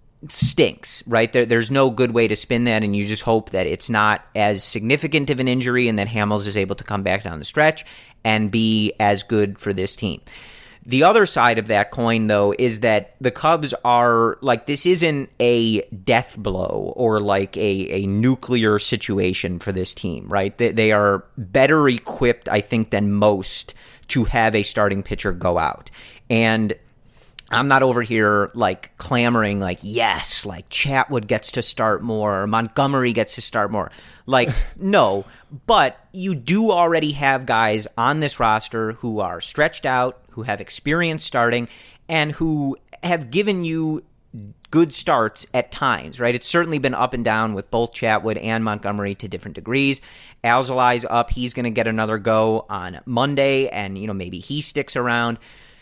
stinks, right? There, there's no good way to spin that, and you just hope that it's not as significant of an injury and that Hamels is able to come back down the stretch and be as good for this team. The other side of that coin, though, is that the Cubs are, like, this isn't a death blow or like a, a nuclear situation for this team, right? They, they are better equipped, I think, than most to have a starting pitcher go out. And I'm not over here, like, clamoring, like, yes, like, Chatwood gets to start more, or Montgomery gets to start more. Like, no, but you do already have guys on this roster who are stretched out, who have experience starting, and who have given you good starts at times, right? It's certainly been up and down with both Chatwood and Montgomery to different degrees. Alzolai's up. He's going to get another go on Monday, and, you know, maybe he sticks around.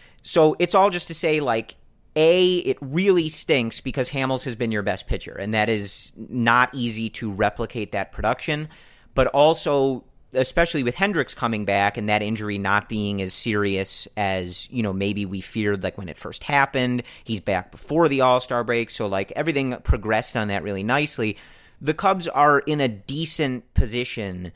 So it's all just to say, like, A, it really stinks because Hamels has been your best pitcher, and that is not easy to replicate that production. But also, especially with Hendricks coming back and that injury not being as serious as, you know, maybe we feared, like, when it first happened. He's back before the All-Star break, so, like, everything progressed on that really nicely. The Cubs are in a decent position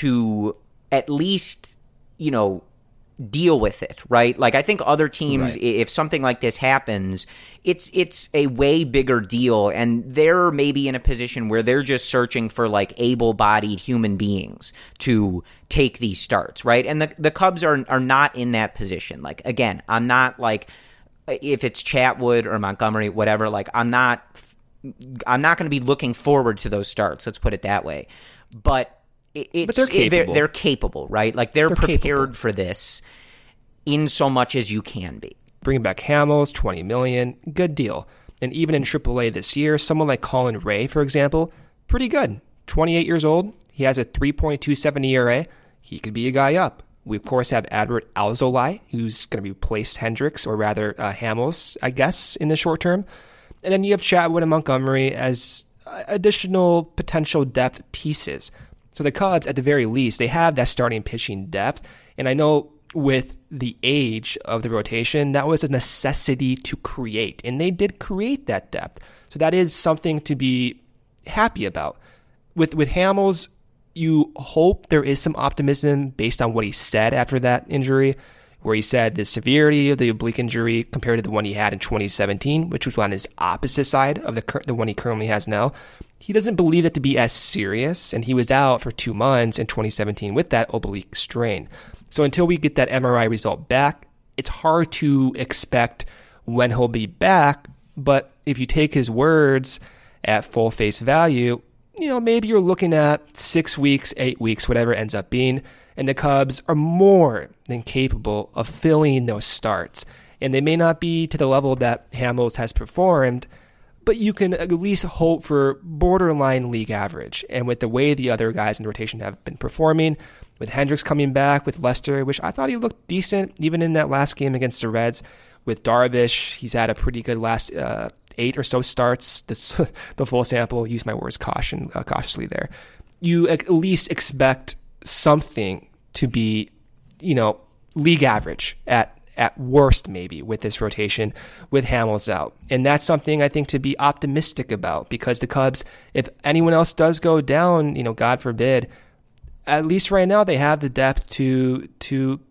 to at least, you know, deal with it, right? Like, I think other teams, right. if something like this happens, it's it's a way bigger deal, and they're maybe in a position where they're just searching for, like, able-bodied human beings to take these starts, right? And the the Cubs are are not in that position. Like, again, I'm not, like, if it's Chatwood or Montgomery, whatever, like, I'm not I'm not going to be looking forward to those starts, let's put it that way. But It's, but they're capable. They're, they're capable, right? Like, they're, they're prepared capable. for this in so much as you can be. Bringing back Hamels, twenty million dollars, good deal. And even in triple A this year, someone like Colin Ray, for example, pretty good. twenty-eight years old. He has a three point two seven E R A. He could be a guy up. We, of course, have Adbert Alzolai, who's going to replace Hendricks, or rather uh, Hamels, I guess, in the short term. And then you have Chatwood and Montgomery as additional potential depth pieces. So the Cubs, at the very least, they have that starting pitching depth. And I know with the age of the rotation, that was a necessity to create. And they did create that depth. So that is something to be happy about. With with Hamels, you hope there is some optimism based on what he said after that injury, where he said the severity of the oblique injury compared to the one he had in twenty seventeen, which was on his opposite side of the the one he currently has now. He doesn't believe it to be as serious, and he was out for two months in twenty seventeen with that oblique strain. So until we get that M R I result back, it's hard to expect when he'll be back. But if you take his words at full face value, you know, maybe you're looking at six weeks, eight weeks, whatever it ends up being. And the Cubs are more than capable of filling those starts. And they may not be to the level that Hamels has performed, but you can at least hope for borderline league average. And with the way the other guys in the rotation have been performing, with Hendricks coming back, with Lester, which I thought he looked decent even in that last game against the Reds. With Darvish, he's had a pretty good last uh, eight or so starts. This, the full sample, use my words caution uh, cautiously there. You at least expect something to be, you know, league average at at worst, maybe, with this rotation, with Hamels out. And that's something I think to be optimistic about, because the Cubs, if anyone else does go down, you know, God forbid, at least right now they have the depth to to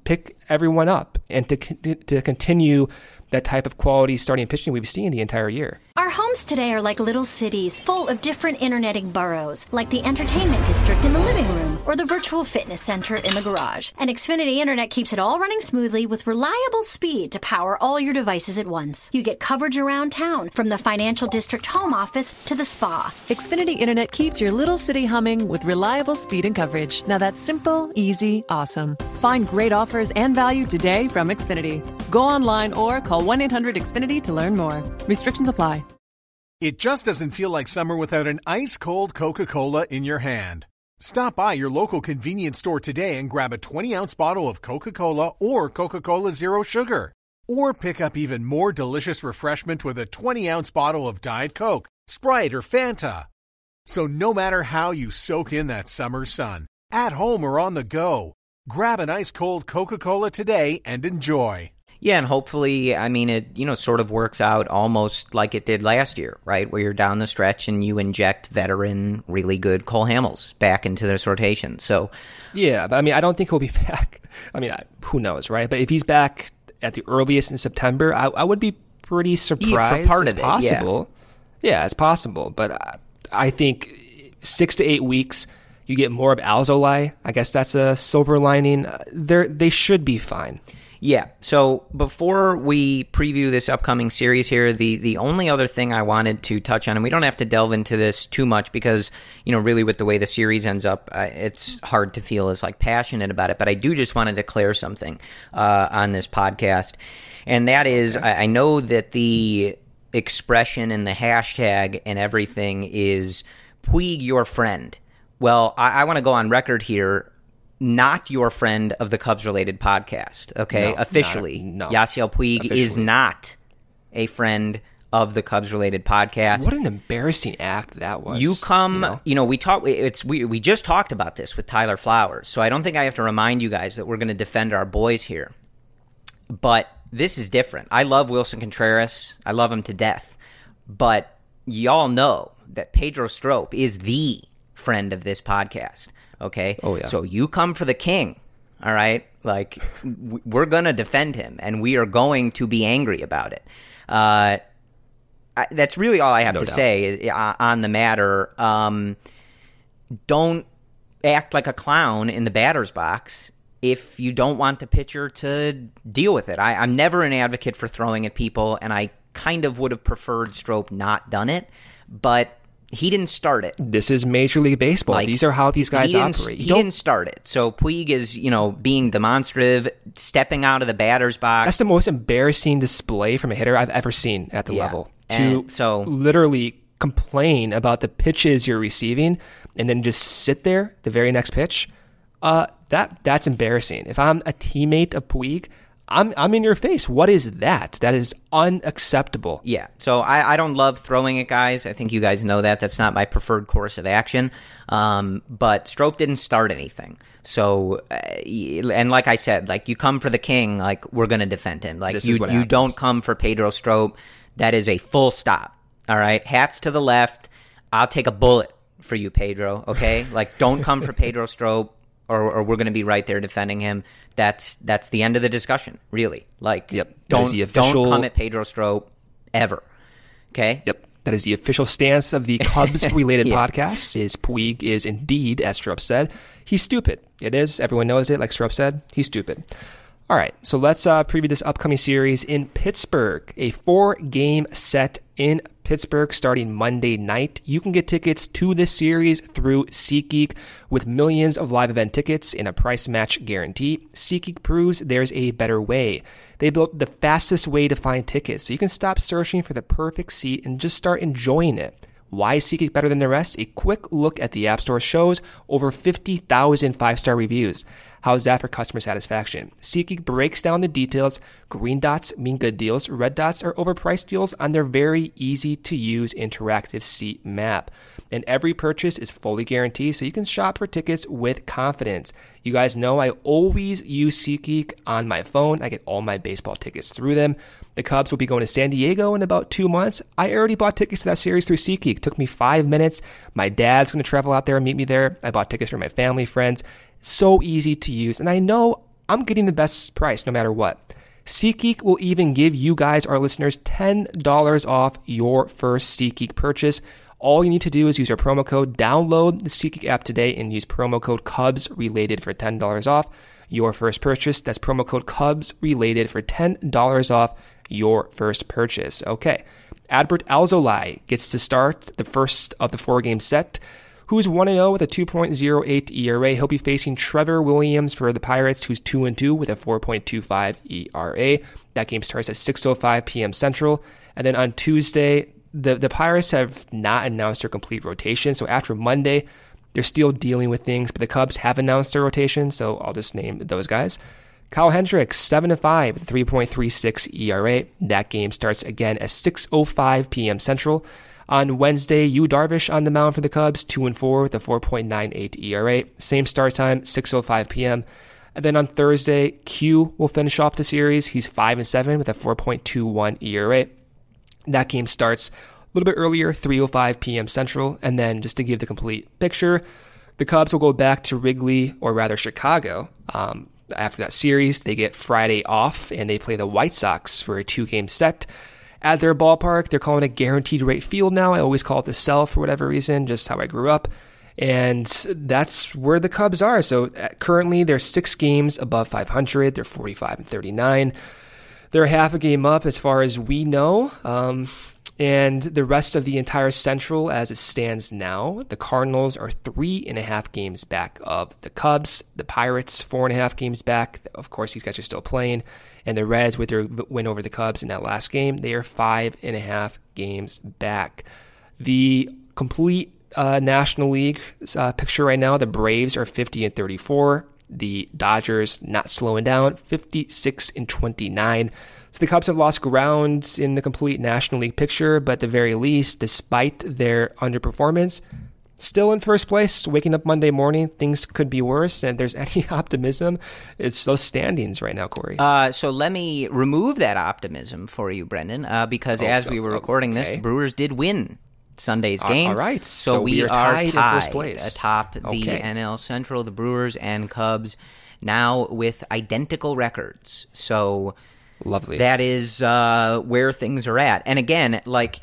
pick everyone up and to to continue that type of quality starting pitching we've seen the entire year. Our homes today are like little cities full of different interneting boroughs, like the entertainment district in the living room or the virtual fitness center in the garage. And Xfinity Internet keeps it all running smoothly with reliable speed to power all your devices at once. You get coverage around town, from the financial district home office to the spa. Xfinity Internet keeps your little city humming with reliable speed and coverage. Now that's simple, easy, awesome. Find great offers and value today from Xfinity. Go online or call one eight hundred X Finity to learn more. Restrictions apply. It just doesn't feel like summer without an ice-cold Coca-Cola in your hand. Stop by your local convenience store today and grab a twenty-ounce bottle of Coca-Cola or Coca-Cola Zero Sugar. Or pick up even more delicious refreshment with a twenty-ounce bottle of Diet Coke, Sprite, or Fanta. So no matter how you soak in that summer sun, at home or on the go, grab an ice-cold Coca-Cola today and enjoy. Yeah, and hopefully, I mean, it, you know, sort of works out almost like it did last year, right? Where you're down the stretch and you inject veteran, really good Cole Hamels back into this rotation. So, yeah, but I mean, I don't think he'll be back. I mean, I, who knows, right? But if he's back at the earliest in September, I, I would be pretty surprised. Yeah, for part it's of it, possible. Yeah. yeah, it's possible. But I, I think six to eight weeks, you get more of Alzolay. I guess that's a silver lining. They're, they should be fine. Yeah, so before we preview this upcoming series here, the, the only other thing I wanted to touch on, and we don't have to delve into this too much because, you know, really with the way the series ends up, uh, it's hard to feel as, like, passionate about it, but I do just want to declare something uh, on this podcast, and that is, I, I know that the expression and the hashtag and everything is Puig your friend. Well, I, I want to go on record here. Not your friend of the Cubs-related podcast, okay? No, Officially. Not, no. Yasiel Puig Officially. is not a friend of the Cubs-related podcast. What an embarrassing act that was. You come, you know, you know we talk. It's we we just talked about this with Tyler Flowers, so I don't think I have to remind you guys that we're going to defend our boys here. But this is different. I love Wilson Contreras. I love him to death. But y'all know that Pedro Strop is the friend of this podcast. Okay? Oh, yeah. So you come for the king, all right? Like, we're going to defend him, and we are going to be angry about it. Uh, I, that's really all I have no to doubt. say on the matter. Um, don't act like a clown in the batter's box if you don't want the pitcher to deal with it. I, I'm never an advocate for throwing at people, and I kind of would have preferred Strop not done it, but he didn't start it. This is Major League Baseball. Like, these are how these guys he operate. He Don't, didn't start it. So Puig is, you know, being demonstrative, stepping out of the batter's box. That's the most embarrassing display from a hitter I've ever seen at the yeah. level. And to so literally complain about the pitches you're receiving and then just sit there the very next pitch, uh, that that's embarrassing. If I'm a teammate of Puig, I'm I'm in your face. What is that? That is unacceptable. Yeah. So I, I don't love throwing at guys. I think you guys know that. That's not my preferred course of action. Um, but Strop didn't start anything. So, uh, and like I said, like you come for the king, like we're going to defend him. Like This you is what you happens. don't come for Pedro Strop. That is a full stop. All right. Hats to the left. I'll take a bullet for you, Pedro. Okay. Like don't come for Pedro Strop. Or, or we're going to be right there defending him. That's that's the end of the discussion, really. Like, yep. don't the official... don't come at Pedro Strop ever. Okay? Yep. That is the official stance of the Cubs-related yeah. podcast, is Puig is indeed, as Strop said, he's stupid. It is. Everyone knows it. Like Strop said, he's stupid. All right, so let's uh, preview this upcoming series in Pittsburgh. A four-game set in Pittsburgh starting Monday night. You can get tickets to this series through SeatGeek with millions of live event tickets and a price match guarantee. SeatGeek proves there's a better way. They built the fastest way to find tickets, so you can stop searching for the perfect seat and just start enjoying it. Why is SeatGeek better than the rest? A quick look at the App Store shows over fifty thousand five-star reviews. How's that for customer satisfaction? SeatGeek breaks down the details. Green dots mean good deals. Red dots are overpriced deals on their very easy-to-use interactive seat map. And every purchase is fully guaranteed, so you can shop for tickets with confidence. You guys know I always use SeatGeek on my phone. I get all my baseball tickets through them. The Cubs will be going to San Diego in about two months. I already bought tickets to that series through SeatGeek. It took me five minutes. My dad's going to travel out there and meet me there. I bought tickets for my family, friends. So easy to use. And I know I'm getting the best price no matter what. SeatGeek will even give you guys, our listeners, ten dollars off your first SeatGeek purchase. All you need to do is use our promo code, download the SeatGeek app today, and use promo code CubsRelated for ten dollars off your first purchase. That's promo code CubsRelated for ten dollars off your first purchase. Okay, Adbert Alzolay gets to start the first of the four-game set. Who's one and oh with a two point oh eight E R A. He'll be facing Trevor Williams for the Pirates, who's two and two with a four point two five E R A. That game starts at six oh five p.m. Central. And then on Tuesday, the, the Pirates have not announced their complete rotation. So after Monday, they're still dealing with things, but the Cubs have announced their rotation, so I'll just name those guys. Kyle Hendricks, seven and five with a three point three six E R A. That game starts again at six oh five p.m. Central. On Wednesday, Yu Darvish on the mound for the Cubs, two and four with a four point nine eight E R A. Same start time, six oh five p.m. And then on Thursday, Q will finish off the series. He's five and seven with a four point two one E R A. That game starts a little bit earlier, three oh five p.m. Central. And then just to give the complete picture, the Cubs will go back to Wrigley, or rather Chicago. Um, after that series, they get Friday off, and they play the White Sox for a two-game set at their ballpark. They're calling it Guaranteed Rate Field now. I always call it the Cell for whatever reason, just how I grew up. And that's where the Cubs are. So currently they're six games above five hundred. They're forty-five and thirty-nine. They're half a game up as far as we know. Um, and the rest of the entire Central as it stands now, the Cardinals are three and a half games back of the Cubs. The Pirates, four and a half games back. Of course, these guys are still playing. And the Reds, with their win over the Cubs in that last game, they are five and a half games back. The complete uh, National League uh, picture right now, the Braves are fifty and thirty-four. The Dodgers not slowing down, fifty-six and twenty-nine. So the Cubs have lost ground in the complete National League picture, but at the very least, despite their underperformance, still in first place, waking up Monday morning, things could be worse, and if there's any optimism, it's those standings right now, Corey. Uh, so let me remove that optimism for you, Brendan, uh, because oh, as we were recording okay. this, the Brewers did win Sunday's game. Uh, all right, so, so we, we are tied, tied in first place. atop the okay. N L Central, the Brewers and Cubs, now with identical records. So lovely. That is uh, where things are at. And again, like,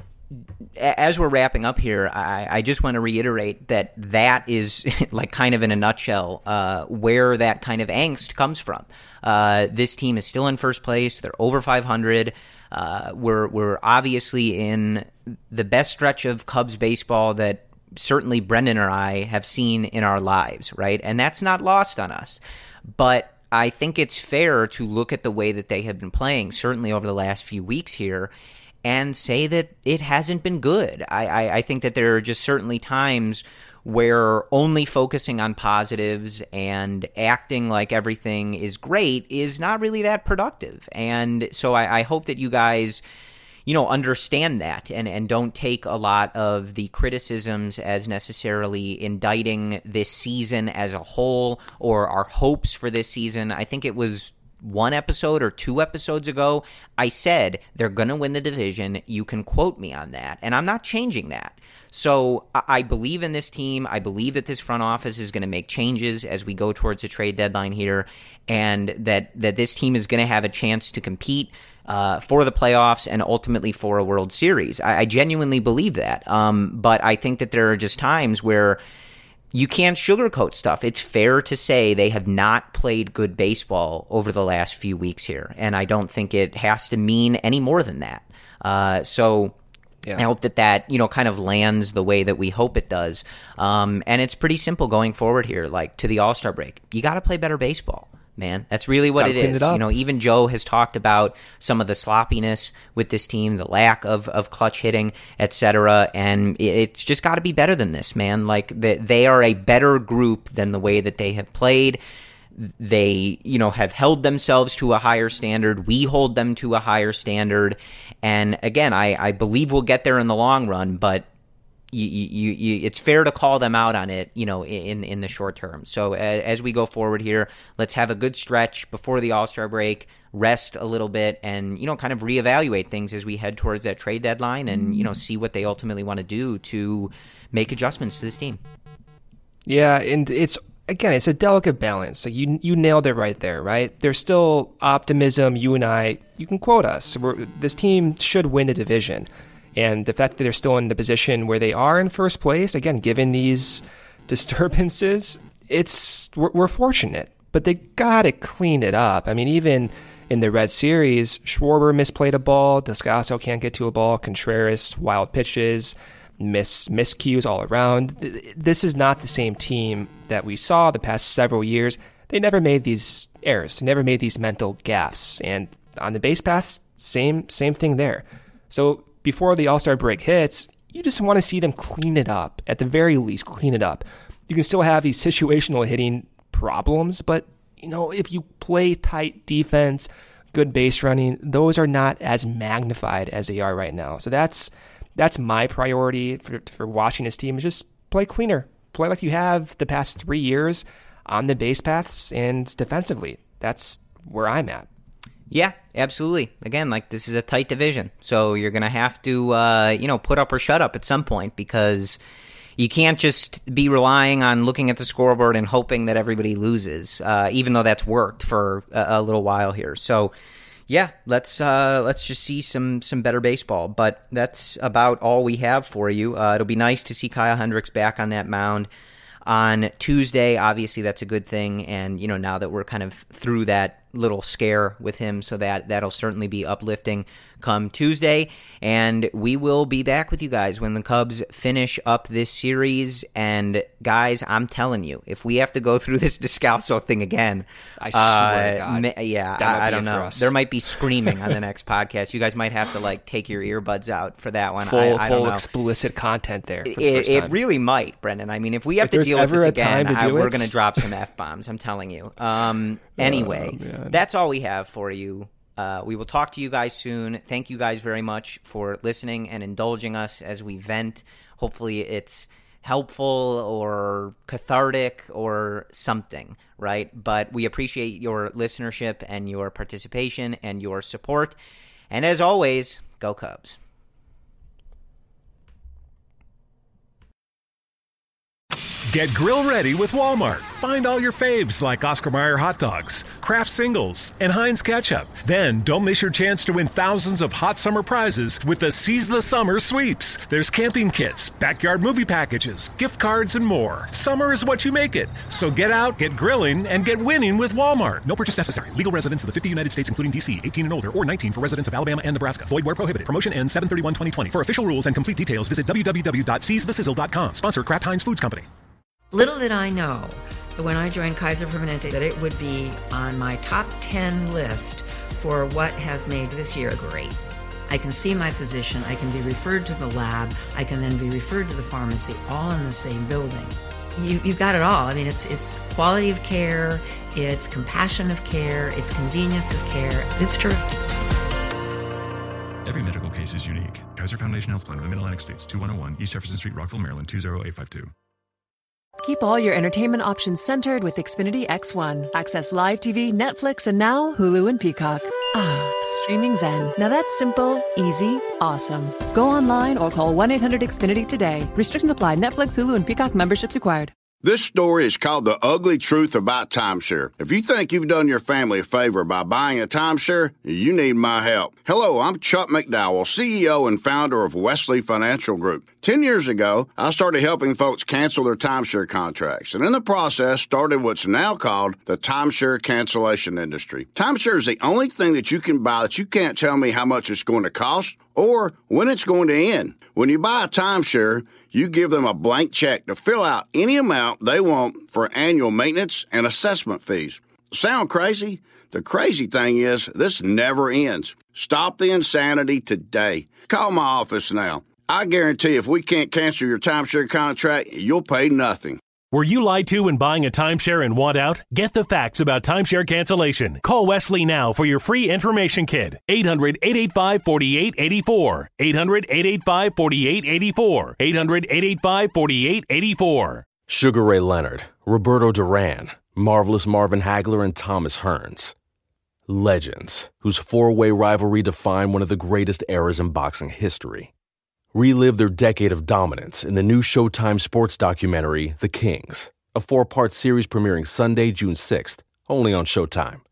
as we're wrapping up here, I, I just want to reiterate that that is, like, kind of in a nutshell, uh, where that kind of angst comes from. Uh, this team is still in first place. They're over five hundred. Uh, we're we're obviously in the best stretch of Cubs baseball that certainly Brendan or I have seen in our lives, right? And that's not lost on us. But I think it's fair to look at the way that they have been playing, certainly over the last few weeks here, and say that it hasn't been good. I, I, I think that there are just certainly times where only focusing on positives and acting like everything is great is not really that productive. And so I, I hope that you guys, you know, understand that and, and don't take a lot of the criticisms as necessarily indicting this season as a whole or our hopes for this season. I think it was one episode or two episodes ago, I said they're going to win the division. You can quote me on that, and I'm not changing that. So I believe in this team. I believe that this front office is going to make changes as we go towards the trade deadline here, and that, that this team is going to have a chance to compete uh, for the playoffs and ultimately for a World Series. I, I genuinely believe that. Um, but I think that there are just times where you can't sugarcoat stuff. It's fair to say they have not played good baseball over the last few weeks here, and I don't think it has to mean any more than that. Uh, so yeah. I hope that that, you know, kind of lands the way that we hope it does. Um, and it's pretty simple going forward here, like to the All-Star break. You got to play better baseball, man. That's really what Gotta it is. It you know, even Joe has talked about some of the sloppiness with this team, the lack of, of clutch hitting, et cetera. And it's just got to be better than this, man. Like the, they are a better group than the way that they have played. They, you know, have held themselves to a higher standard. We hold them to a higher standard. And again, I, I believe we'll get there in the long run, but You, you, you, it's fair to call them out on it, you know, in in the short term. So as, as we go forward here, let's have a good stretch before the All-Star break, rest a little bit, and, you know, kind of reevaluate things as we head towards that trade deadline and, you know, see what they ultimately want to do to make adjustments to this team. Yeah, and it's again, it's a delicate balance. Like you you nailed it right there, right? There's still optimism. You and I, you can quote us. We're, this team should win the division. And the fact that they're still in the position where they are in first place, again, given these disturbances, it's we're, we're fortunate. But they got to clean it up. I mean, even in the Red Series, Schwarber misplayed a ball. Descalso can't get to a ball. Contreras, wild pitches, miss miscues all around. This is not the same team that we saw the past several years. They never made these errors. They never made these mental gaffes. And on the base paths, same same thing there. So before the All-Star break hits, you just want to see them clean it up. At the very least, clean it up. You can still have these situational hitting problems, but you know, if you play tight defense, good base running, those are not as magnified as they are right now. So that's that's my priority for for watching this team, is just play cleaner. Play like you have the past three years on the base paths and defensively. That's where I'm at. Yeah, absolutely. Again, like, this is a tight division, so you're going to have to, uh, you know, put up or shut up at some point, because you can't just be relying on looking at the scoreboard and hoping that everybody loses, uh, even though that's worked for a, a little while here. So, yeah, let's uh, let's just see some some better baseball. But that's about all we have for you. Uh, it'll be nice to see Kyle Hendricks back on that mound on Tuesday. Obviously, that's a good thing. And, you know, now that we're kind of through that little scare with him, so that that'll certainly be uplifting come Tuesday. And we will be back with you guys when the Cubs finish up this series. And guys, I'm telling you, if we have to go through this Descalso thing again, I swear to God, ma- yeah, I, I don't know. There might be screaming on the next podcast. You guys might have to like take your earbuds out for that one. Full, I, I don't full know. explicit content there. For the it, first it time. really might, Brendan. I mean, if we have if to deal with this again, I, we're it. going to drop some F-bombs. I'm telling you. Um, anyway, oh, that's all we have for you. Uh, we will talk to you guys soon. Thank you guys very much for listening and indulging us as we vent. Hopefully it's helpful or cathartic or something, right? But we appreciate your listenership and your participation and your support. And as always, go Cubs. Get grill ready with Walmart. Find all your faves like Oscar Mayer hot dogs, Kraft singles, and Heinz ketchup. Then don't miss your chance to win thousands of hot summer prizes with the Seize the Summer sweeps. There's camping kits, backyard movie packages, gift cards, and more. Summer is what you make it. So get out, get grilling, and get winning with Walmart. No purchase necessary. Legal residents of the fifty United States, including D C, eighteen and older, or nineteen for residents of Alabama and Nebraska. Void where prohibited. Promotion ends seven thirty-one twenty twenty. For official rules and complete details, visit w w w dot seize the sizzle dot com. Sponsor Kraft Heinz Foods Company. Little did I know that when I joined Kaiser Permanente that it would be on my top ten list for what has made this year great. I can see my physician, I can be referred to the lab, I can then be referred to the pharmacy, all in the same building. You, you've got it all. I mean, it's it's quality of care, it's compassion of care, it's convenience of care. It's terrific. Every medical case is unique. Kaiser Foundation Health Plan of the Mid-Atlantic States, two one zero one East Jefferson Street, Rockville, Maryland, two zero eight five two. Keep all your entertainment options centered with Xfinity X one. Access live T V, Netflix, and now Hulu and Peacock. Ah, streaming zen. Now that's simple, easy, awesome. Go online or call one eight hundred X Finity today. Restrictions apply. Netflix, Hulu, and Peacock memberships required. This story is called The Ugly Truth About Timeshare. If you think you've done your family a favor by buying a timeshare, you need my help. Hello, I'm Chuck McDowell, C E O and founder of Wesley Financial Group. Ten years ago, I started helping folks cancel their timeshare contracts, and in the process started what's now called the timeshare cancellation industry. Timeshare is the only thing that you can buy that you can't tell me how much it's going to cost or when it's going to end. When you buy a timeshare, you give them a blank check to fill out any amount they want for annual maintenance and assessment fees. Sound crazy? The crazy thing is, this never ends. Stop the insanity today. Call my office now. I guarantee if we can't cancel your timeshare contract, you'll pay nothing. Were you lied to when buying a timeshare and want out? Get the facts about timeshare cancellation. Call Wesley now for your free information kit. eight hundred, eight eight five, four eight eight four. eight hundred, eight eight five, four eight eight four. eight hundred, eight eight five, four eight eight four. Sugar Ray Leonard, Roberto Duran, Marvelous Marvin Hagler, and Thomas Hearns. Legends, whose four-way rivalry defined one of the greatest eras in boxing history. Relive their decade of dominance in the new Showtime sports documentary, The Kings, a four-part series premiering Sunday, June sixth, only on Showtime.